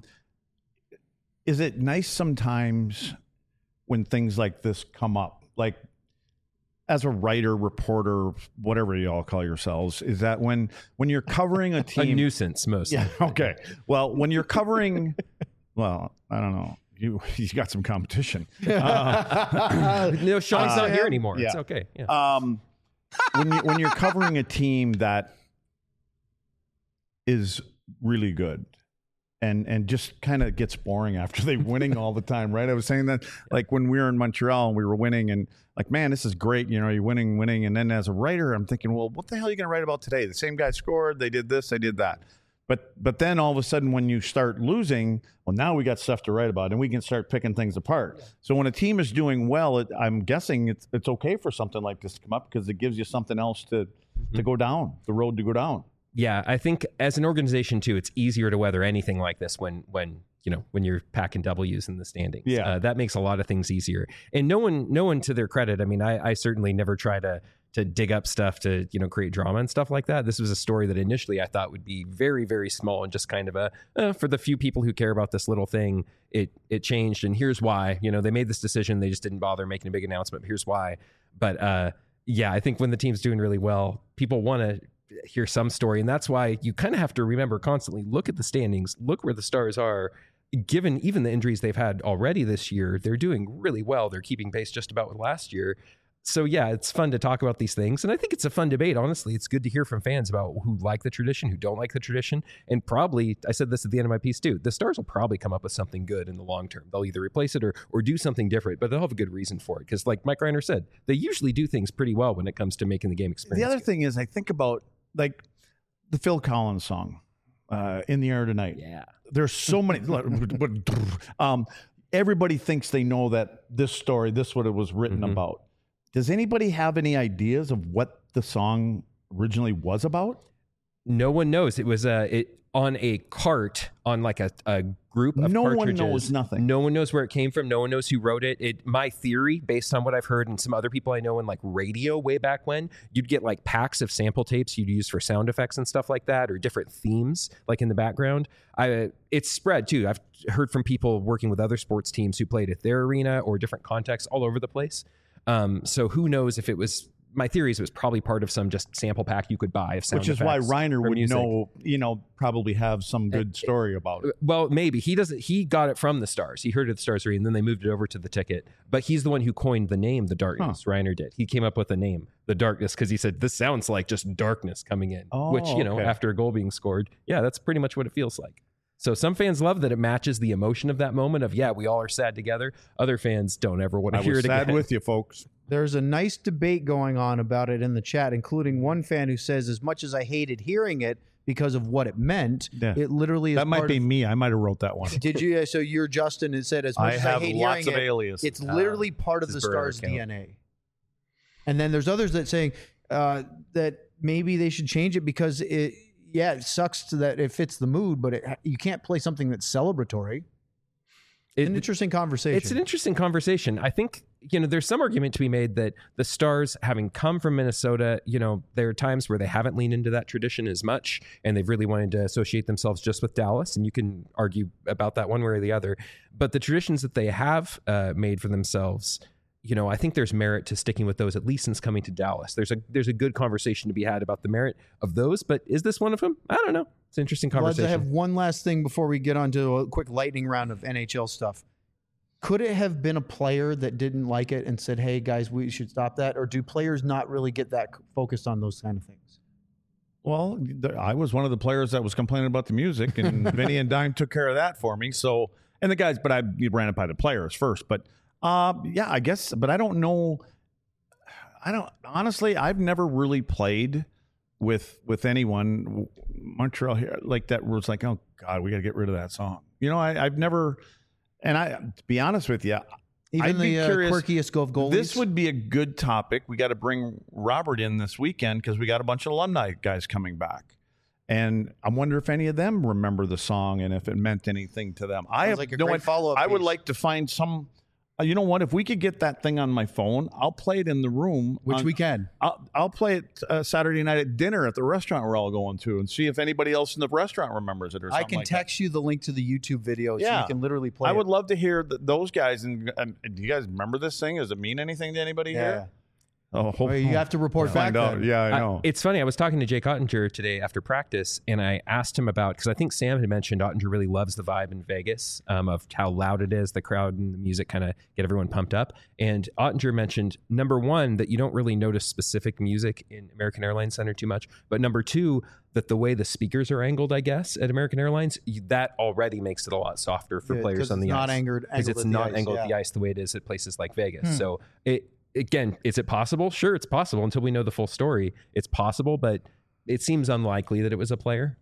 is it nice sometimes when things like this come up, like as a writer, reporter, whatever you all call yourselves, is that when you're covering a team... A nuisance, mostly. Yeah, okay. Well, when you're covering... well, I don't know. You got some competition. No, Sean's not here anymore. Yeah. It's okay. Yeah. When you're covering a team that is really good, and just kind of gets boring after they're winning all the time, right? I was saying that, like, when we were in Montreal and we were winning, and like, man, this is great. You're winning. And then as a writer, I'm thinking, well, what the hell are you going to write about today? The same guy scored. They did this. They did that. But then all of a sudden, when you start losing, well, now we got stuff to write about, and we can start picking things apart. So when a team is doing well, I'm guessing it's okay for something like this to come up, because it gives you something else to go down, the road to go down. Yeah, I think as an organization too, it's easier to weather anything like this when you're packing W's in the standings. Yeah, that makes a lot of things easier. And no one to their credit. I mean, I certainly never try to dig up stuff to create drama and stuff like that. This was a story that initially I thought would be very, very small and just kind of for the few people who care about this little thing. It changed, and here's why. They made this decision. They just didn't bother making a big announcement. But here's why. But yeah, I think when the team's doing really well, people want to hear some story, and that's why you kind of have to remember constantly, look at the standings, look where the Stars are. Given even the injuries they've had already this year, they're doing really well. They're keeping pace just about with last year. So yeah, it's fun to talk about these things, and I think it's a fun debate. Honestly, it's good to hear from fans about who like the tradition, who don't like the tradition, and probably, I said this at the end of my piece too, the Stars will probably come up with something good in the long term. They'll either replace it or do something different, but they'll have a good reason for it, because like Mike Reiner said, they usually do things pretty well when it comes to making the game experience. The other thing is, I think about like the Phil Collins song, "In the Air Tonight." Yeah, there's so many. Everybody thinks they know that this story, what it was written about. Does anybody have any ideas of what the song originally was about? No one knows. It was on a cart on like a group of cartridges. No one knows nothing. No one knows where it came from. No one knows who wrote it. My theory, based on what I've heard and some other people I know in like radio way back when, you'd get like packs of sample tapes you'd use for sound effects and stuff like that, or different themes like in the background. It's spread too. I've heard from people working with other sports teams who played at their arena or different contexts all over the place. So who knows if it was, my theory is it was probably part of some just sample pack you could buy of sound effects. Which is why Reiner would know, probably have some good story about it. Well, maybe. He got it from the Stars. He heard of the Stars and then they moved it over to the ticket. But he's the one who coined the name, The Darkness. Reiner did. He came up with the name, The Darkness, because he said, this sounds like just darkness coming in. Which, after a goal being scored, yeah, that's pretty much what it feels like. So some fans love that it matches the emotion of that moment of, yeah, we all are sad together. Other fans don't ever want to hear it again. I was sad with you, folks. There's a nice debate going on about it in the chat, including one fan who says, as much as I hated hearing it because of what it meant, it literally is. That might be me. I might have wrote that one. Did you? So you're Justin and said, as much as I hate hearing it, it's literally part of the Stars' DNA. And then there's others that saying that maybe they should change it because it sucks that it fits the mood, but you can't play something that's celebratory. It's an interesting conversation. It's an interesting conversation. I think, there's some argument to be made that the Stars, having come from Minnesota, there are times where they haven't leaned into that tradition as much, and they've really wanted to associate themselves just with Dallas, and you can argue about that one way or the other. But the traditions that they have made for themselves, I think there's merit to sticking with those, at least since coming to Dallas. There's a good conversation to be had about the merit of those, but is this one of them? I don't know. It's an interesting conversation. I have one last thing before we get on to a quick lightning round of NHL stuff. Could it have been a player that didn't like it and said, hey, guys, we should stop that? Or do players not really get that focused on those kind of things? Well, I was one of the players that was complaining about the music, and Vinny and Dime took care of that for me. So, and the guys, but I ran it by the players first. But yeah, I guess, but I don't know. Honestly, I've never really played with anyone Montreal here like that was like, oh God, we got to get rid of that song. I've never, and to be honest with you, Even the quirkiest of goalies. This would be a good topic. We got to bring Robert in this weekend because we got a bunch of alumni guys coming back. And I wonder if any of them remember the song and if it meant anything to them. I have like no follow-up. I would like to find some. You know what? If we could get that thing on my phone, I'll play it in the room. Which we can. I'll play it Saturday night at dinner at the restaurant we're all going to and see if anybody else in the restaurant remembers it or something. I can like text you the link to the YouTube video so you can literally play I it. would love to hear those guys. And do you guys remember this thing? Does it mean anything to anybody here? Oh, you have to report back then. Yeah, I know. It's funny. I was talking to Jake Ottinger today after practice, and I asked him about, because I think Sam had mentioned Ottinger really loves the vibe in Vegas, of how loud it is, the crowd and the music kind of get everyone pumped up. And Ottinger mentioned, number one, that you don't really notice specific music in American Airlines Center too much. But number two, that the way the speakers are angled, I guess, at American Airlines, that already makes it a lot softer for players on the ice. Because it's not angled at the ice the way it is at places like Vegas. So again, is it possible? Sure, it's possible until we know the full story. It's possible, but it seems unlikely that it was a player.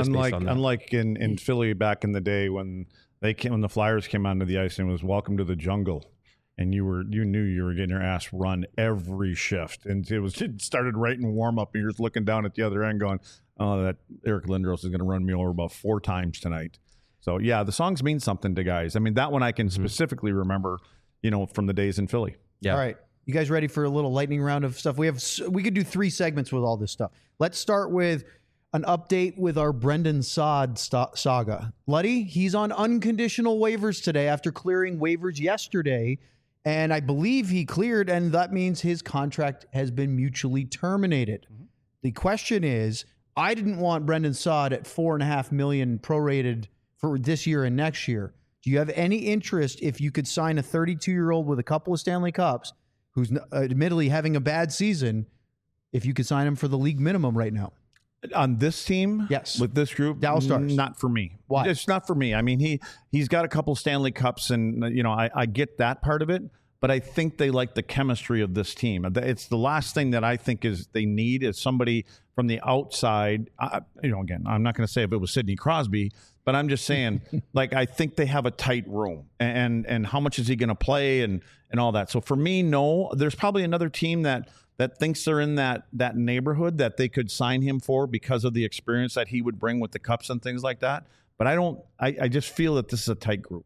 Unlike in Philly back in the day when the Flyers came onto the ice and it was welcome to the jungle, and you knew you were getting your ass run every shift, and it started right in warm up, and you're just looking down at the other end going, "Oh, that Eric Lindros is going to run me over about 4 times tonight." So yeah, the songs mean something to guys. I mean, that one I can specifically remember, from the days in Philly. Yeah. All right. You guys ready for a little lightning round of stuff? We could do 3 segments with all this stuff. Let's start with an update with our Brendan Saad saga. Luddy, he's on unconditional waivers today after clearing waivers yesterday. And I believe he cleared, and that means his contract has been mutually terminated. Mm-hmm. The question is, I didn't want Brendan Saad at $4.5 million prorated for this year and next year. Do you have any interest if you could sign a 32-year-old with a couple of Stanley Cups who's admittedly having a bad season, if you could sign him for the league minimum right now? On this team? Yes. With this group? Dallas Stars. Not for me. Why? It's not for me. I mean, he's got a couple Stanley Cups, and, I get that part of it, but I think they like the chemistry of this team. It's the last thing that I think they need is somebody from the outside. Again, I'm not going to say if it was Sidney Crosby, but I'm just saying, I think they have a tight room, and how much is he going to play and all that. So for me, no. There's probably another team that thinks they're in that neighborhood that they could sign him for because of the experience that he would bring with the Cups and things like that. But I just feel that this is a tight group.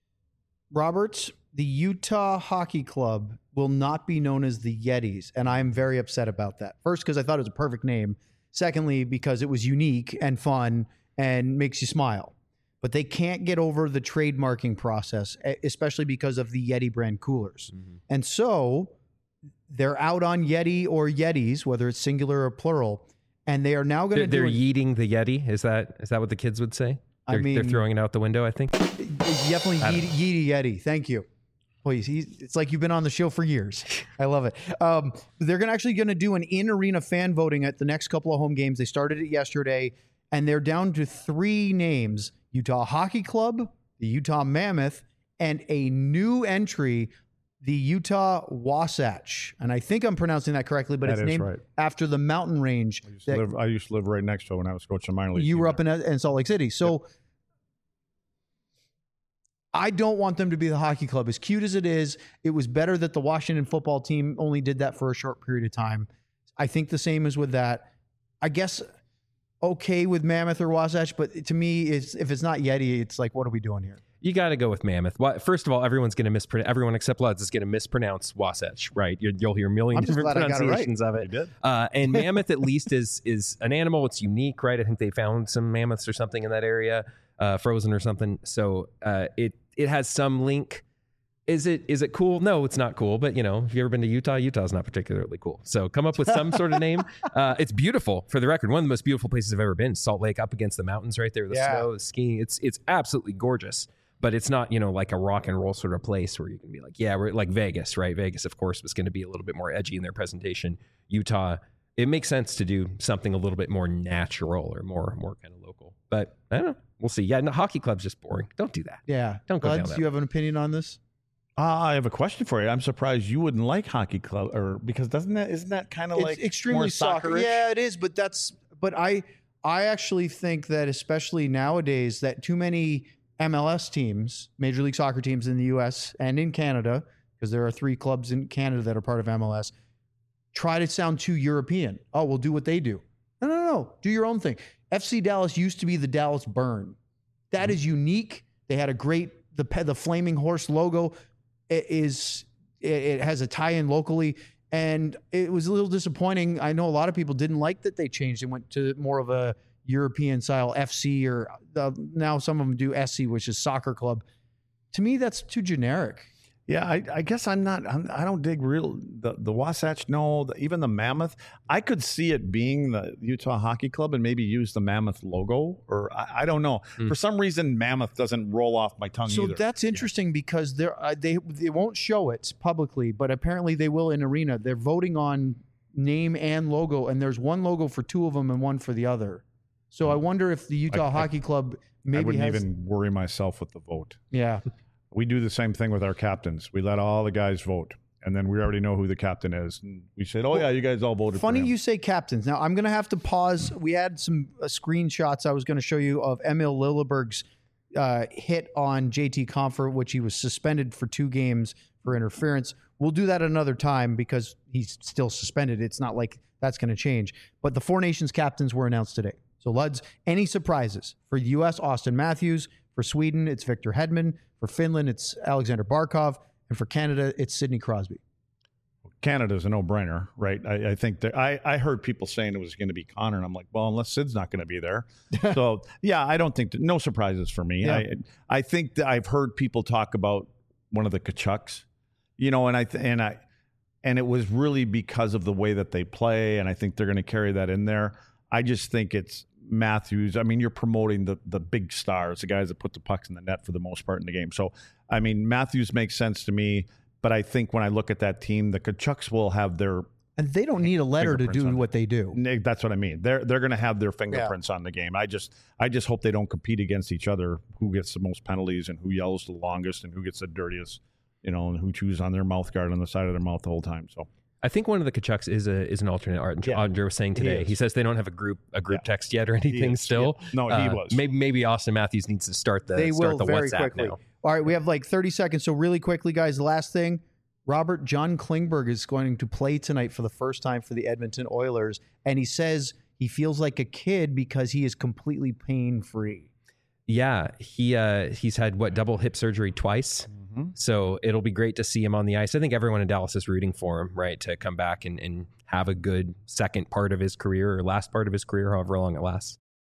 Roberts, the Utah Hockey Club will not be known as the Yetis, and I'm very upset about that. First, because I thought it was a perfect name. Secondly, because it was unique and fun and makes you smile. But they can't get over the trademarking process, especially because of the Yeti brand coolers. Mm-hmm. And so they're out on Yeti or Yetis, whether it's singular or plural, and they are now going to They're yeeting the Yeti? Is that what the kids would say? They're throwing it out the window, I think. Definitely Yeeti Yeti. Thank you. Please, it's like you've been on the show for years. I love it. They're actually going to do an in-arena fan voting at the next couple of home games. They started it yesterday, and they're down to 3 names: Utah Hockey Club, the Utah Mammoth, and a new entry, the Utah Wasatch. And I think I'm pronouncing that correctly, but it's named after the mountain range. I used to live right next to it when I was coaching minor league. You were up in Salt Lake City. So I don't want them to be the hockey club. As cute as it is, it was better that the Washington football team only did that for a short period of time. I think the same is with that. I guess okay with Mammoth or Wasatch, but to me, if it's not Yeti, it's like, what are we doing here? You got to go with Mammoth. First of all, everyone's going to mispronounce. Everyone except Luds is going to mispronounce Wasatch, right? You'll hear a million different pronunciations of it. And Mammoth at least is an animal. It's unique, right? I think they found some mammoths or something in that area, frozen or something. So it has some link. Is it cool? No, it's not cool. But if you ever been to Utah, Utah's not particularly cool. So come up with some sort of name. It's beautiful, for the record. One of the most beautiful places I've ever been. Salt Lake, up against the mountains, right there, the snow, the skiing. It's absolutely gorgeous. But it's not, like a rock and roll sort of place where you can be like, yeah, we're like Vegas, right? Vegas, of course, was going to be a little bit more edgy in their presentation. Utah, it makes sense to do something a little bit more natural or more kind of local. But I don't know. We'll see. Yeah, no, hockey club's just boring. Don't do that. Yeah. Don't go down that. Do you have an opinion on this? I have a question for you. I'm surprised you wouldn't like hockey club, because isn't that kind of like extremely soccer? Yeah, it is. But I actually think that especially nowadays that too many MLS teams, Major League Soccer teams in the U.S. and in Canada, because there are 3 clubs in Canada that are part of MLS, try to sound too European. Oh, we'll do what they do. No. Do your own thing. FC Dallas used to be the Dallas Burn. That is unique. They had a great, the Flaming Horse logo it has a tie-in locally, and it was a little disappointing. I know a lot of people didn't like that they changed and went to more of a European style FC, or now some of them do SC, which is soccer club. To me, that's too generic. Yeah, I guess I don't dig the Wasatch. No, even the Mammoth. I could see it being the Utah Hockey Club and maybe use the Mammoth logo, or I don't know. For some reason, Mammoth doesn't roll off my tongue either. So that's interesting because they won't show it publicly, but apparently they will in Arena. They're voting on name and logo, and there's one logo for 2 of them and one for the other. So I wonder if the Utah Hockey Club maybe I wouldn't even worry myself with the vote. Yeah. We do the same thing with our captains. We let all the guys vote, and then we already know who the captain is. And we said, yeah, you guys all voted Funny for him. you say captains. Now, I'm going to have to pause. We had some screenshots I was going to show you of Emil Lilleberg's hit on JT Compher, which he was suspended for 2 games for interference. We'll do that another time because he's still suspended. It's not like that's going to change. But the 4 Nations captains were announced today. So, Luds, any surprises? For the U.S., Austin Matthews. For Sweden, it's Victor Hedman. For Finland, it's Alexander Barkov. And for Canada, it's Sidney Crosby. Canada's a no-brainer, right? I think that I heard people saying it was going to be Connor, and I'm like, well, unless Sid's not going to be there. So, yeah, I don't think no surprises for me. Yeah. I think that I've heard people talk about one of the Kachucks, and it was really because of the way that they play, and I think they're going to carry that in there. I just think it's Matthews. I mean, you're promoting the big stars, the guys that put the pucks in the net for the most part in the game. So, I mean, Matthews makes sense to me, but I think when I look at that team, the Kachucks will have their... And they don't need a letter to do what they do. That's what I mean. They're going to have their fingerprints on the game. I just hope they don't compete against each other, who gets the most penalties and who yells the longest and who gets the dirtiest, and who chews on their mouth guard on the side of their mouth the whole time. So I think one of the Kachucks is an alternate. Andre was saying today. He says they don't have a group text yet or anything still. Yeah. No, he was. Maybe Austin Matthews needs to start the WhatsApp quickly. now. All right, we have like 30 seconds. So really quickly, guys, the last thing. John Klingberg is going to play tonight for the first time for the Edmonton Oilers. And he says he feels like a kid because he is completely pain-free. Yeah, he's had double hip surgery twice. So it'll be great to see him on the ice. I think everyone in Dallas is rooting for him, right, to come back and have a good second part of his career or last part of his career, however long it lasts.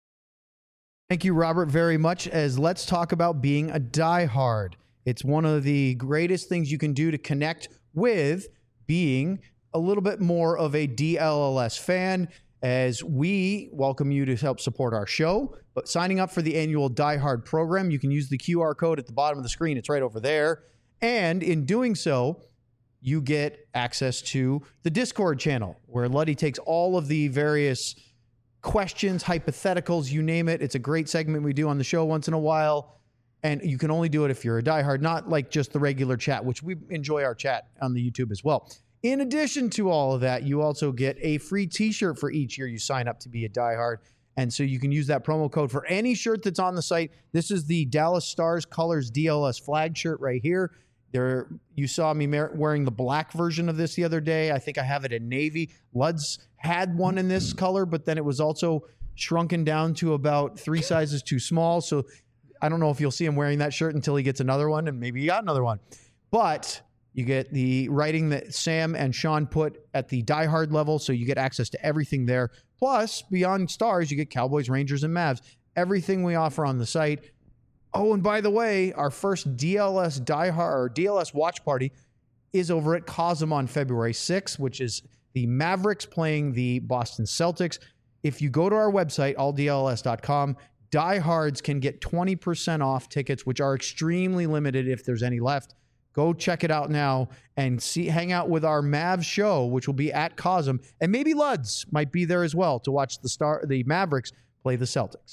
Thank you, Robert, very much. As let's talk about being a diehard. It's one of the greatest things you can do to connect with being a little bit more of a DLLS fan, as we welcome you to help support our show. But signing up for the annual Die Hard program, you can use the QR code at the bottom of the screen. It's right over there. And in doing so, you get access to the Discord channel, where Luddy takes all of the various questions, hypotheticals, you name it. It's a great segment we do on the show once in a while. And you can only do it if you're a diehard, not like just the regular chat, which we enjoy our chat on the YouTube as well. In addition to all of that, you also get a free t-shirt for each year you sign up to be a diehard. And so you can use that promo code for any shirt that's on the site. This is the Dallas Stars Colors DLS flag shirt right here. You saw me wearing the black version of this the other day. I think I have it in navy. Luds had one in this color, but then it was also shrunken down to about 3 sizes too small. So I don't know if you'll see him wearing that shirt until he gets another one, and maybe he got another one. But you get the writing that Sam and Sean put at the Die Hard level, so you get access to everything there. Plus, beyond Stars, you get Cowboys, Rangers, and Mavs. Everything we offer on the site. Oh, and by the way, our first DLS Die Hard or DLS watch party is over at Cosm on February 6th, which is the Mavericks playing the Boston Celtics. If you go to our website, alldls.com, diehards can get 20% off tickets, which are extremely limited if there's any left. Go check it out now and hang out with our Mavs show, which will be at Cosm, and maybe Luds might be there as well to watch the Mavericks play the Celtics.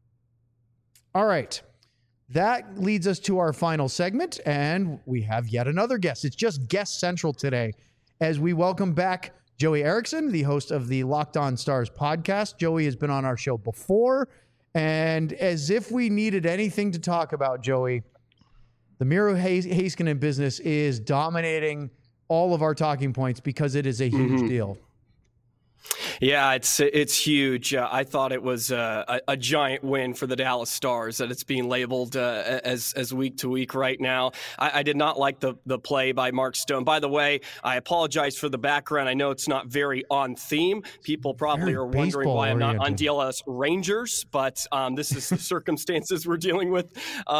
All right, that leads us to our final segment, and we have yet another guest. It's just Guest Central today, as we welcome back Joey Erickson, the host of the Locked On Stars podcast. Joey has been on our show before, And as if we needed anything to talk about, Joey, the Miro Heiskanen business is dominating all of our talking points because it is a huge deal. Yeah, it's huge. I thought it was a giant win for the Dallas Stars that it's being labeled as week to week right now. I did not like the play by Mark Stone. By the way, I apologize for the background. I know it's not very on theme. People probably are wondering why I'm not on DLS Rangers, but this is the circumstances we're dealing with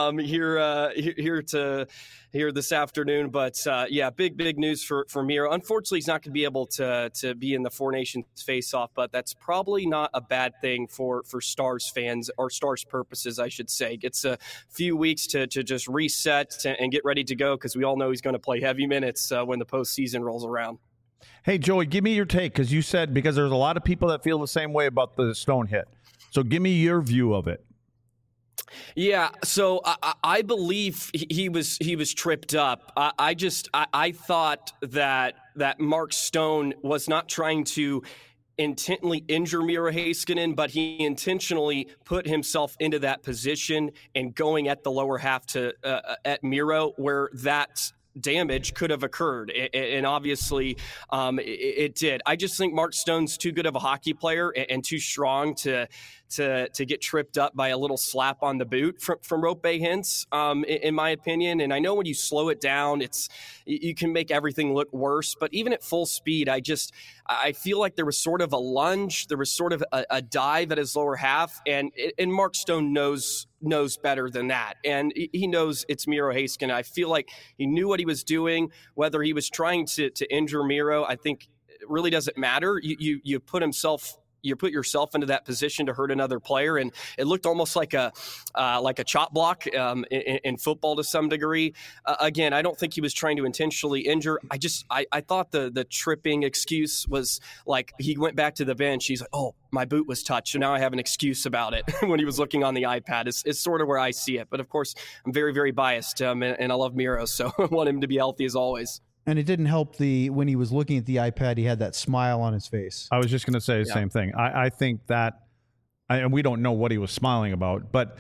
here this afternoon. But yeah, big news for Miro. Unfortunately, he's not going to be able to be in the Four Nations face-off, but that's probably not a bad thing for Stars fans, or Stars purposes, I should say. It's a few weeks to just reset and get ready to go, because we all know he's going to play heavy minutes when the postseason rolls around. Hey, Joey, give me your take, because you said, because there's a lot of people that feel the same way about the Stone hit. So give me your view of it. Yeah, so I believe he was tripped up. I thought that Mark Stone was not trying to intently injure Miro Heiskanen, but he intentionally put himself into that position and going at the lower half at Miro, where that damage could have occurred, and obviously it did. I just think Mark Stone's too good of a hockey player and too strong to get tripped up by a little slap on the boot from Roope Hintz, in my opinion. And I know when you slow it down, you can make everything look worse. But even at full speed, I feel like there was sort of a lunge, there was sort of a dive at his lower half, and Mark Stone knows better than that, and he knows it's Miro Heiskanen. I feel like he knew what he was doing. Whether he was trying to injure Miro, I think it really doesn't matter. You put yourself into that position to hurt another player, and it looked almost like a chop block in football to some degree. Again, I don't think he was trying to intentionally injure. I thought the tripping excuse was like he went back to the bench. He's like, oh, my boot was touched, so now I have an excuse about it when he was looking on the iPad. It's sort of where I see it. But of course, I'm very, very biased, and I love Miro, so I want him to be healthy as always. And it didn't help when he was looking at the iPad, he had that smile on his face. I was just going to say the same thing. I think that, and we don't know what he was smiling about, but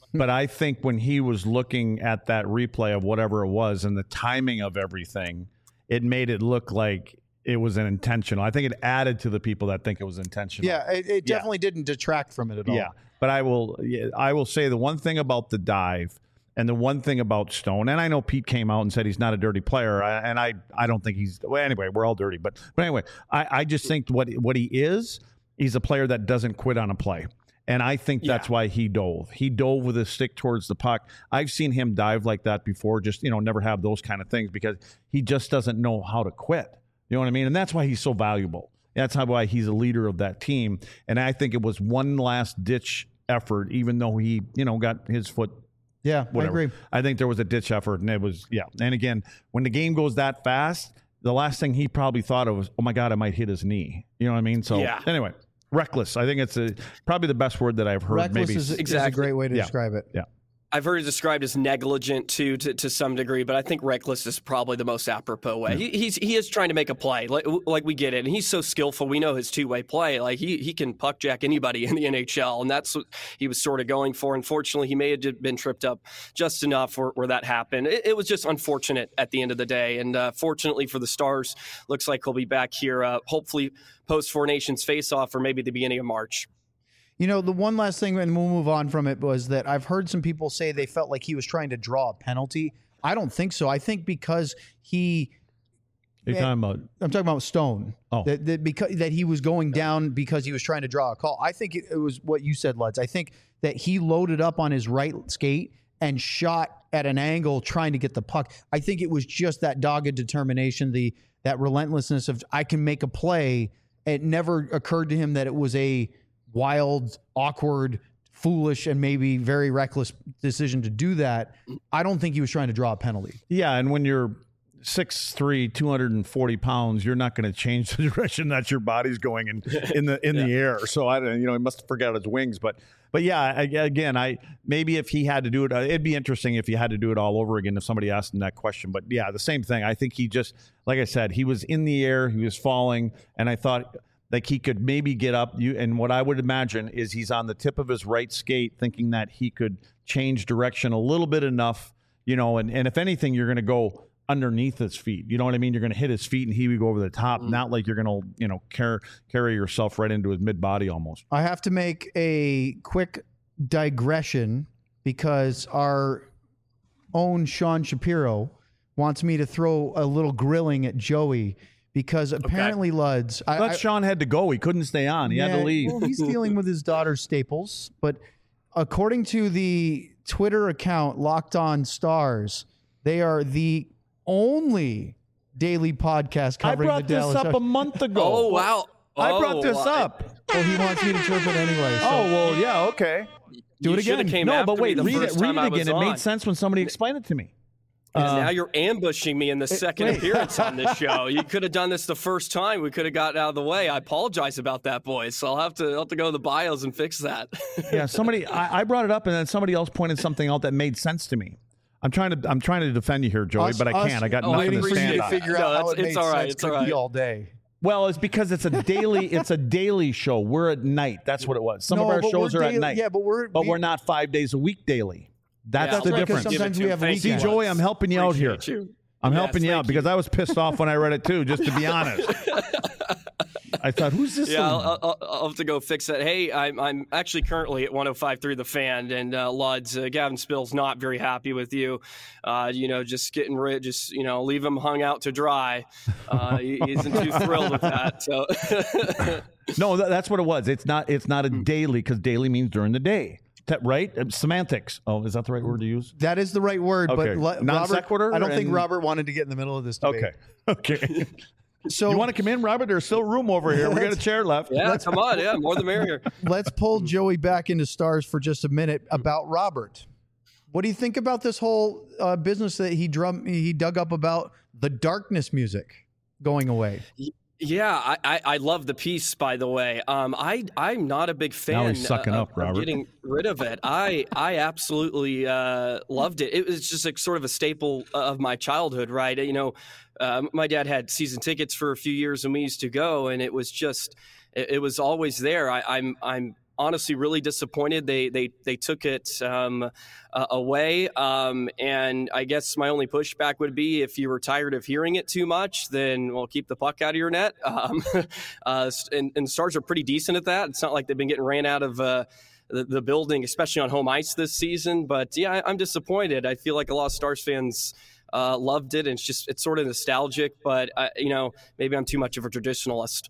I think when he was looking at that replay of whatever it was and the timing of everything, it made it look like it was an intentional. I think it added to the people that think it was intentional. Yeah, it definitely didn't detract from it at all. Yeah, but I will say the one thing about the dive. And the one thing about Stone, and I know Pete came out and said he's not a dirty player, and I don't think he's. Well, anyway, we're all dirty, but anyway, I just think what he is, he's a player that doesn't quit on a play, and I think that's why he dove. He dove with his stick towards the puck. I've seen him dive like that before, just never have those kind of things, because he just doesn't know how to quit. You know what I mean? And that's why he's so valuable. That's why he's a leader of that team. And I think it was one last ditch effort, even though he got his foot. Yeah, whatever. I agree. I think there was a ditch effort, and it was, And again, when the game goes that fast, the last thing he probably thought of was, oh my God, I might hit his knee. You know what I mean? So anyway, reckless. I think it's probably the best word that I've heard. Reckless is a great way to describe it. Yeah. I've heard it described as negligent too, to some degree, but I think reckless is probably the most apropos way. Yeah. He is trying to make a play, like we get it, and he's so skillful. We know his two-way play. Like he can puck jack anybody in the NHL, and that's what he was sort of going for. Unfortunately, he may have been tripped up just enough where that happened. It was just unfortunate at the end of the day, and fortunately for the Stars, looks like he'll be back here, hopefully post Four Nations face-off or maybe the beginning of March. The one last thing, and we'll move on from it, was that I've heard some people say they felt like he was trying to draw a penalty. I don't think so. I think because You're talking about? I'm talking about Stone. Oh. That he was going down because he was trying to draw a call. I think it was what you said, Luds. I think that he loaded up on his right skate and shot at an angle trying to get the puck. I think it was just that dogged determination, that relentlessness of, I can make a play. It never occurred to him that it was a wild, awkward, foolish, and maybe very reckless decision to do that. I don't think he was trying to draw a penalty. Yeah, and when you're 6'3", 240 pounds, you're not going to change the direction that your body's going in the air. So I don't, he must have forgot his wings. But yeah, again, maybe if he had to do it, it'd be interesting if he had to do it all over again if somebody asked him that question. But yeah, the same thing. I think he just, like I said, he was in the air, he was falling, and I thought like he could maybe get up. And what I would imagine is he's on the tip of his right skate, thinking that he could change direction a little bit enough, and if anything, you're going to go underneath his feet. You know what I mean? You're going to hit his feet and he would go over the top, not like you're going to, carry yourself right into his mid body almost. I have to make a quick digression because our own Sean Shapiro wants me to throw a little grilling at Joey because apparently Luds. Sean had to go. He couldn't stay on. He had to leave. Well, he's dealing with his daughter's staples. But according to the Twitter account Locked On Stars, they are the only daily podcast covering the Dallas. I brought this up a month ago. Oh, wow. I brought this up. Well, he wants me to chirp it anyway. So. Oh, well, yeah, okay. Do it again. No, but wait, read it again. It made sense when somebody explained it to me. Now you're ambushing me in the second appearance on this show. You could have done this the first time. We could have gotten out of the way. I apologize about that, boys. So I'll have to go to the bios and fix that. Yeah, I brought it up, and then somebody else pointed something out that made sense to me. I'm trying to defend you here, Joey, but I can't. I got nothing to stand on. Figure out how it made sense. It's all right. All day. Well, it's because it's a daily show. We're at night. That's what it was. Some of our shows are at night. Yeah, but we're not 5 days a week daily. That's the difference. Sometimes we have a weekend. See, Joey, I'm helping you out here. I'm helping you out because I was pissed off when I read it too, just to be honest. I thought, who's this? Yeah, I'll have to go fix that. Hey, I'm actually currently at 105.3 The Fan, and Luds, Gavin Spill's not very happy with you. Just getting rid, leave him hung out to dry. He isn't too thrilled with that. So. No, that's what it was. It's not a daily because daily means during the day. Right? Semantics. Oh, is that the right word to use? That is the right word. Okay. But Non sequitur. I don't think Robert wanted to get in the middle of this debate. Okay. So you want to come in, Robert? There's still room over here. We got a chair left. Yeah, come on. Yeah, more the merrier. Let's pull Joey back into Stars for just a minute about Robert. What do you think about this whole business that he dug up about the Darkness music going away? Yeah, I love the piece, by the way. I'm not a big fan now he's sucking up, Robert. Getting rid of it. I absolutely loved it. It was just sort of a staple of my childhood, right? My dad had season tickets for a few years, and we used to go, and it was always there. I'm honestly really disappointed they took it away. And I guess my only pushback would be if you were tired of hearing it too much, then we'll keep the puck out of your net. And Stars are pretty decent at that. It's not like they've been getting ran out of the building, especially on home ice this season. But yeah, I'm disappointed. I feel like a lot of Stars fans loved it, and it's sort of nostalgic. But maybe I'm too much of a traditionalist.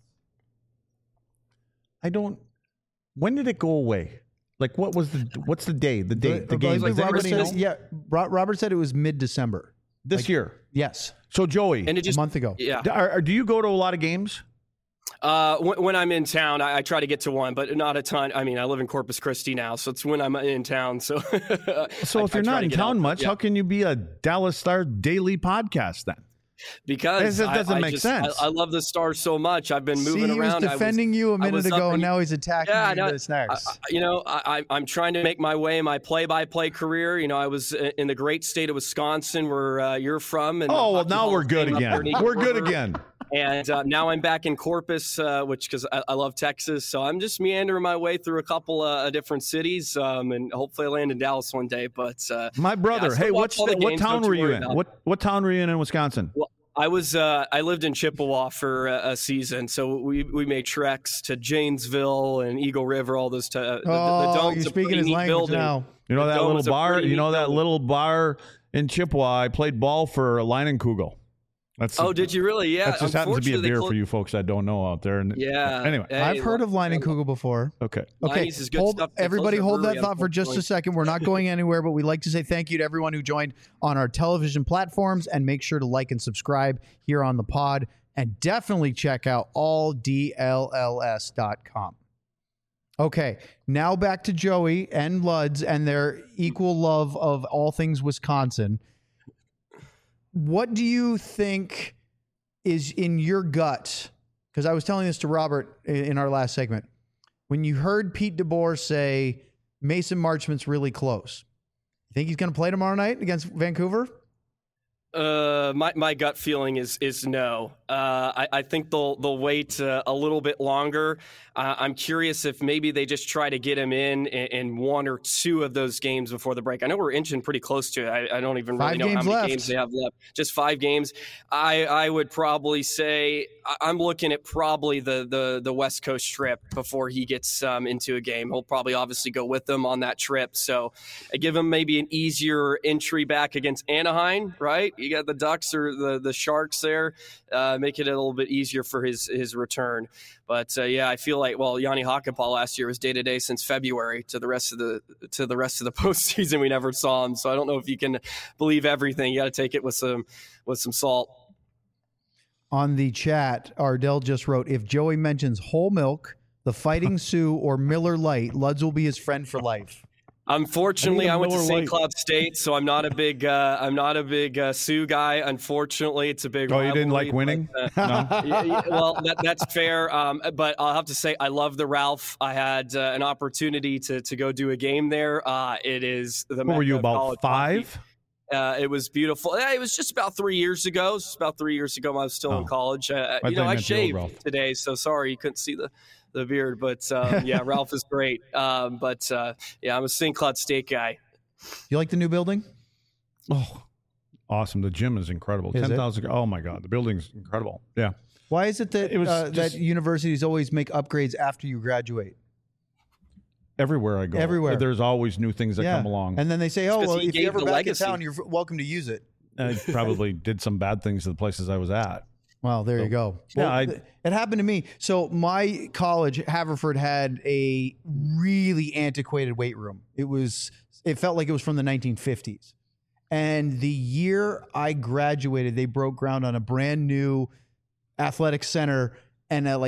When did it go away? Like, what's the day? The date? The game? Does Robert anybody said, know? yeah, Robert said it was mid-December. This year? Yes. So, Joey, a month ago. Yeah. Do you go to a lot of games? When I'm in town, I try to get to one, but not a ton. I mean, I live in Corpus Christi now, so it's when I'm in town. So if you're not in town much, how can you be a Dallas Stars daily podcast then? Because it doesn't make sense. I love the Stars so much. I've been moving around. He was defending you a minute ago, and now he's attacking you this next. I'm trying to make my way in my play-by-play career. I was in the great state of Wisconsin, where you're from. And now we're good again. We're good again. And now I'm back in Corpus, because I love Texas. So I'm just meandering my way through a couple of different cities, and hopefully I land in Dallas one day. But my brother, hey, what town were you in? What town were you in Wisconsin? Well, I lived in Chippewa for a season, so we made treks to Janesville and Eagle River, all those. The dome's you're speaking his language building. Now. You know that little bar? You know that little bar in Chippewa? I played ball for Leinenkugel. Did you really? Yeah. That just happens to be a beer for you folks that don't know out there. Yeah. Anyway. I've heard of Leinenkugel before. Okay. Everybody hold that thought for just a second. We're not going anywhere, but we'd like to say thank you to everyone who joined on our television platforms, and make sure to like and subscribe here on the pod, and definitely check out alldlls.com. Okay, now back to Joey and Luds and their equal love of all things Wisconsin. What do you think is in your gut? Because I was telling this to Robert in our last segment. When you heard Pete DeBoer say Mason Marchment's really close, you think he's going to play tomorrow night against Vancouver? My gut feeling is no. I think they'll wait a little bit longer. I'm curious if maybe they just try to get him in one or two of those games before the break. I know we're inching pretty close to it. I don't even really know how many games they have left. Just 5 games. I would probably say I'm looking at probably the West Coast trip before he gets into a game. He'll probably obviously go with them on that trip. So I give him maybe an easier entry back against Anaheim, right? You got the Ducks or the Sharks there. Make it a little bit easier for his return. But yeah, I feel like Yanni Hakanpää last year was day to day since February to the rest of the postseason. We never saw him, so I don't know if you can believe everything. You got to take it with some salt. On the chat, Ardell just wrote, if Joey mentions whole milk, the Fighting Sioux, or Miller Lite, Luds will be his friend for life. Unfortunately, I went to St. Cloud State, so I'm not a big Sioux guy. Unfortunately, it's a big. Oh, you didn't like winning? No. Well, that's fair. But I'll have to say I love the Ralph. I had an opportunity to go do a game there. It is the. What were you, about 5? It was beautiful. It was just about 3 years ago. It was about 3 years ago. I was still in college. I shaved today, so sorry you couldn't see the beard, but yeah, Ralph is great. But yeah, I'm a St. Cloud State guy. You like the new building? Oh, awesome. The gym is incredible. 10,000. Oh my God. The building's incredible. Yeah. Why is it that that universities always make upgrades after you graduate? Everywhere I go. Everywhere. There's always new things that come along. And then they say, oh, well, if you're ever back in town, you're welcome to use it. I probably did some bad things to the places I was at. Well, there you go. Well, it happened to me. So my college, Haverford, had a really antiquated weight room. It felt like it was from the 1950s. And the year I graduated, they broke ground on a brand new athletic center. And our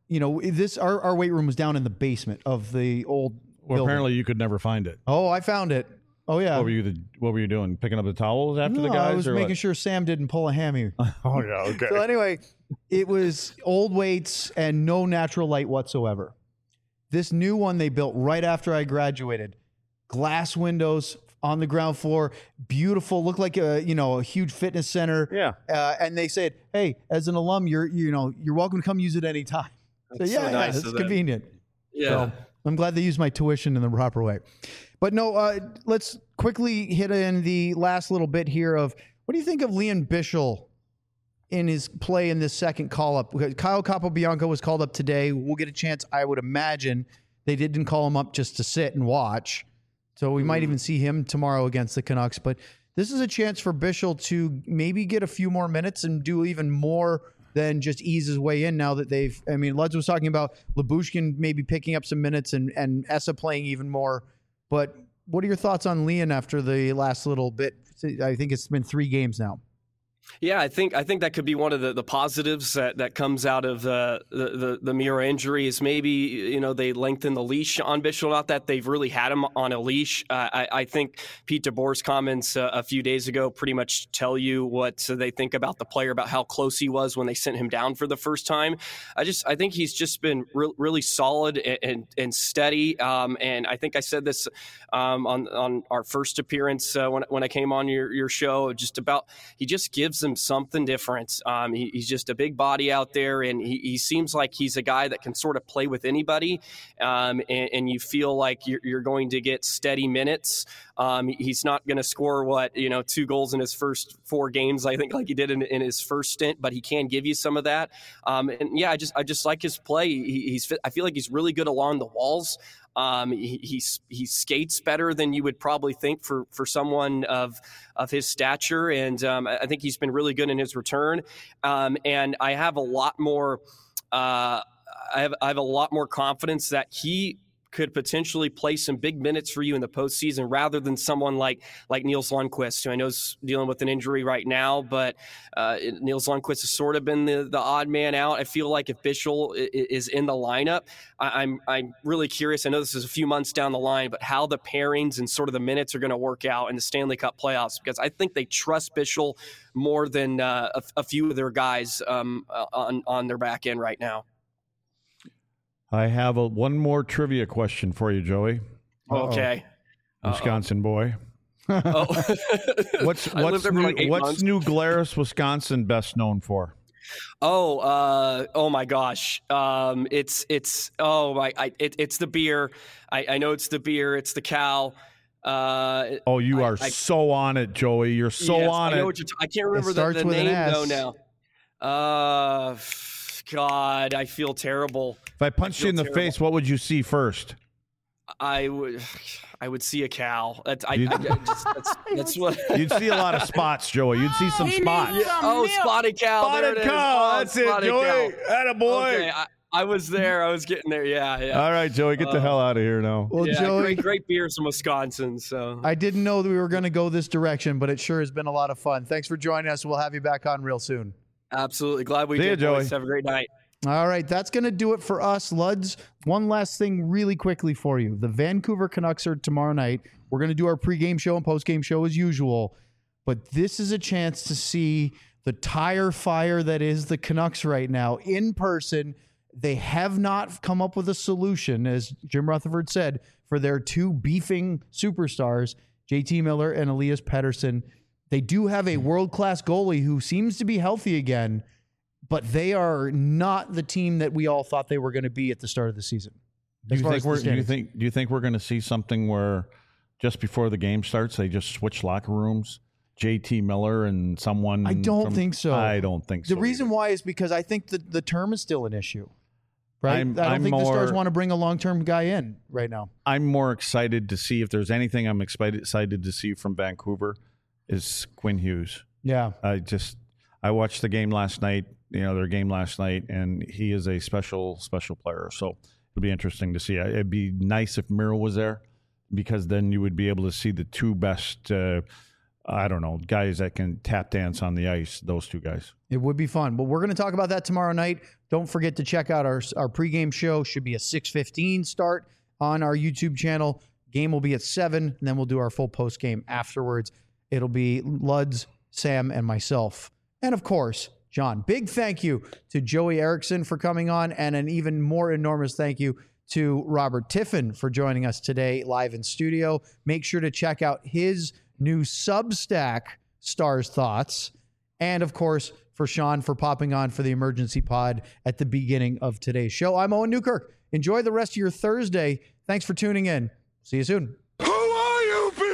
weight room was down in the basement of the old building. Apparently you could never find it. Oh, I found it. Oh yeah. What were you doing? Picking up the towels after the guys? I was making sure Sam didn't pull a hammy. Oh yeah, okay. So anyway, it was old weights and no natural light whatsoever. This new one they built right after I graduated, glass windows on the ground floor, beautiful, looked like a huge fitness center. Yeah. And they said, hey, as an alum, you're welcome to come use it anytime. So yeah, nice, it's convenient. Yeah. So I'm glad they used my tuition in the proper way. But no, let's quickly hit in the last little bit here of what do you think of Liam Bichsel in his play in this second call-up? Kyle Capobianco was called up today. We'll get a chance, I would imagine. They didn't call him up just to sit and watch. So we might even see him tomorrow against the Canucks. But this is a chance for Bichsel to maybe get a few more minutes and do even more than just ease his way in now that Luds was talking about Lyubushkin maybe picking up some minutes and Essa playing even more. But what are your thoughts on Liam after the last little bit? I think it's been 3 games now. Yeah, I think that could be one of the positives that comes out of the Mira injury is maybe they lengthen the leash on Bichsel. Not that they've really had him on a leash. I think Pete DeBoer's comments a few days ago pretty much tell you what they think about the player, about how close he was when they sent him down for the first time. I think he's just been really solid and steady. And I think I said this on our first appearance when I came on your show, just about he just gives them something different. He's just a big body out there, and he seems like he's a guy that can sort of play with anybody, and you feel like you're going to get steady minutes. He's not going to score 2 goals in his first 4 games, I think, like he did in his first stint, but he can give you some of that. And yeah, I just like his play. I feel like he's really good along the walls. He skates better than you would probably think for someone of his stature, and I think he's been really good in his return. And I have a lot more. I have a lot more confidence that he could potentially play some big minutes for you in the postseason rather than someone like Nils Lundkvist, who I know is dealing with an injury right now, but Nils Lundkvist has sort of been the odd man out. I feel like if Bichsel is in the lineup, I'm really curious. I know this is a few months down the line, but how the pairings and sort of the minutes are going to work out in the Stanley Cup playoffs, because I think they trust Bichsel more than a few of their guys on their back end right now. I have one more trivia question for you, Joey. Okay. Wisconsin boy. Oh. What's New Glarus, Wisconsin best known for? Oh my gosh. It's the beer. I know it's the beer. It's the cow. You are so on it, Joey. You're so on it. I can't remember the name though now. God, I feel terrible. If I punched you in the face, what would you see first? I would see a cow. That's what you'd see a lot of spots, Joey. You'd see some spots. Spotted cow. Spotted cow. That's it, Joey. Attaboy. Okay, I was there. I was getting there. Yeah. All right, Joey, get the hell out of here now. Well, Joey, great beers from Wisconsin. So I didn't know that we were going to go this direction, but it sure has been a lot of fun. Thanks for joining us. We'll have you back on real soon. Absolutely. Glad we did. See you, Joey. Have a great night. All right, that's going to do it for us, Luds. One last thing really quickly for you. The Vancouver Canucks are tomorrow night. We're going to do our pregame show and postgame show as usual, but this is a chance to see the tire fire that is the Canucks right now in person. They have not come up with a solution, as Jim Rutherford said, for their two beefing superstars, JT Miller and Elias Pettersson. They do have a world-class goalie who seems to be healthy again, but they are not the team that we all thought they were going to be at the start of the season. Do you think we're going to see something where just before the game starts, they just switch locker rooms? JT Miller and someone? I don't think so. I don't think so. The reason why is because I think that the term is still an issue. Right? I don't think the Stars want to bring a long-term guy in right now. I'm more excited to see if there's anything I'm excited to see from Vancouver is Quinn Hughes. Yeah. I watched the game last night, their game last night, and he is a special player. So it'll be interesting to see. It'd be nice if Miro was there, because then you would be able to see the two best, guys that can tap dance on the ice, those two guys. It would be fun. But we're going to talk about that tomorrow night. Don't forget to check out our pregame show. Should be a 6:15 start on our YouTube channel. Game will be at 7, and then we'll do our full postgame afterwards. It'll be Luds, Sam, and myself. And, of course, John. Big thank you to Joey Erickson for coming on, and an even more enormous thank you to Robert Tiffin for joining us today live in studio. Make sure to check out his new Substack, Stars Thoughts. And, of course, for Sean for popping on for the emergency pod at the beginning of today's show. I'm Owen Newkirk. Enjoy the rest of your Thursday. Thanks for tuning in. See you soon. Who are you,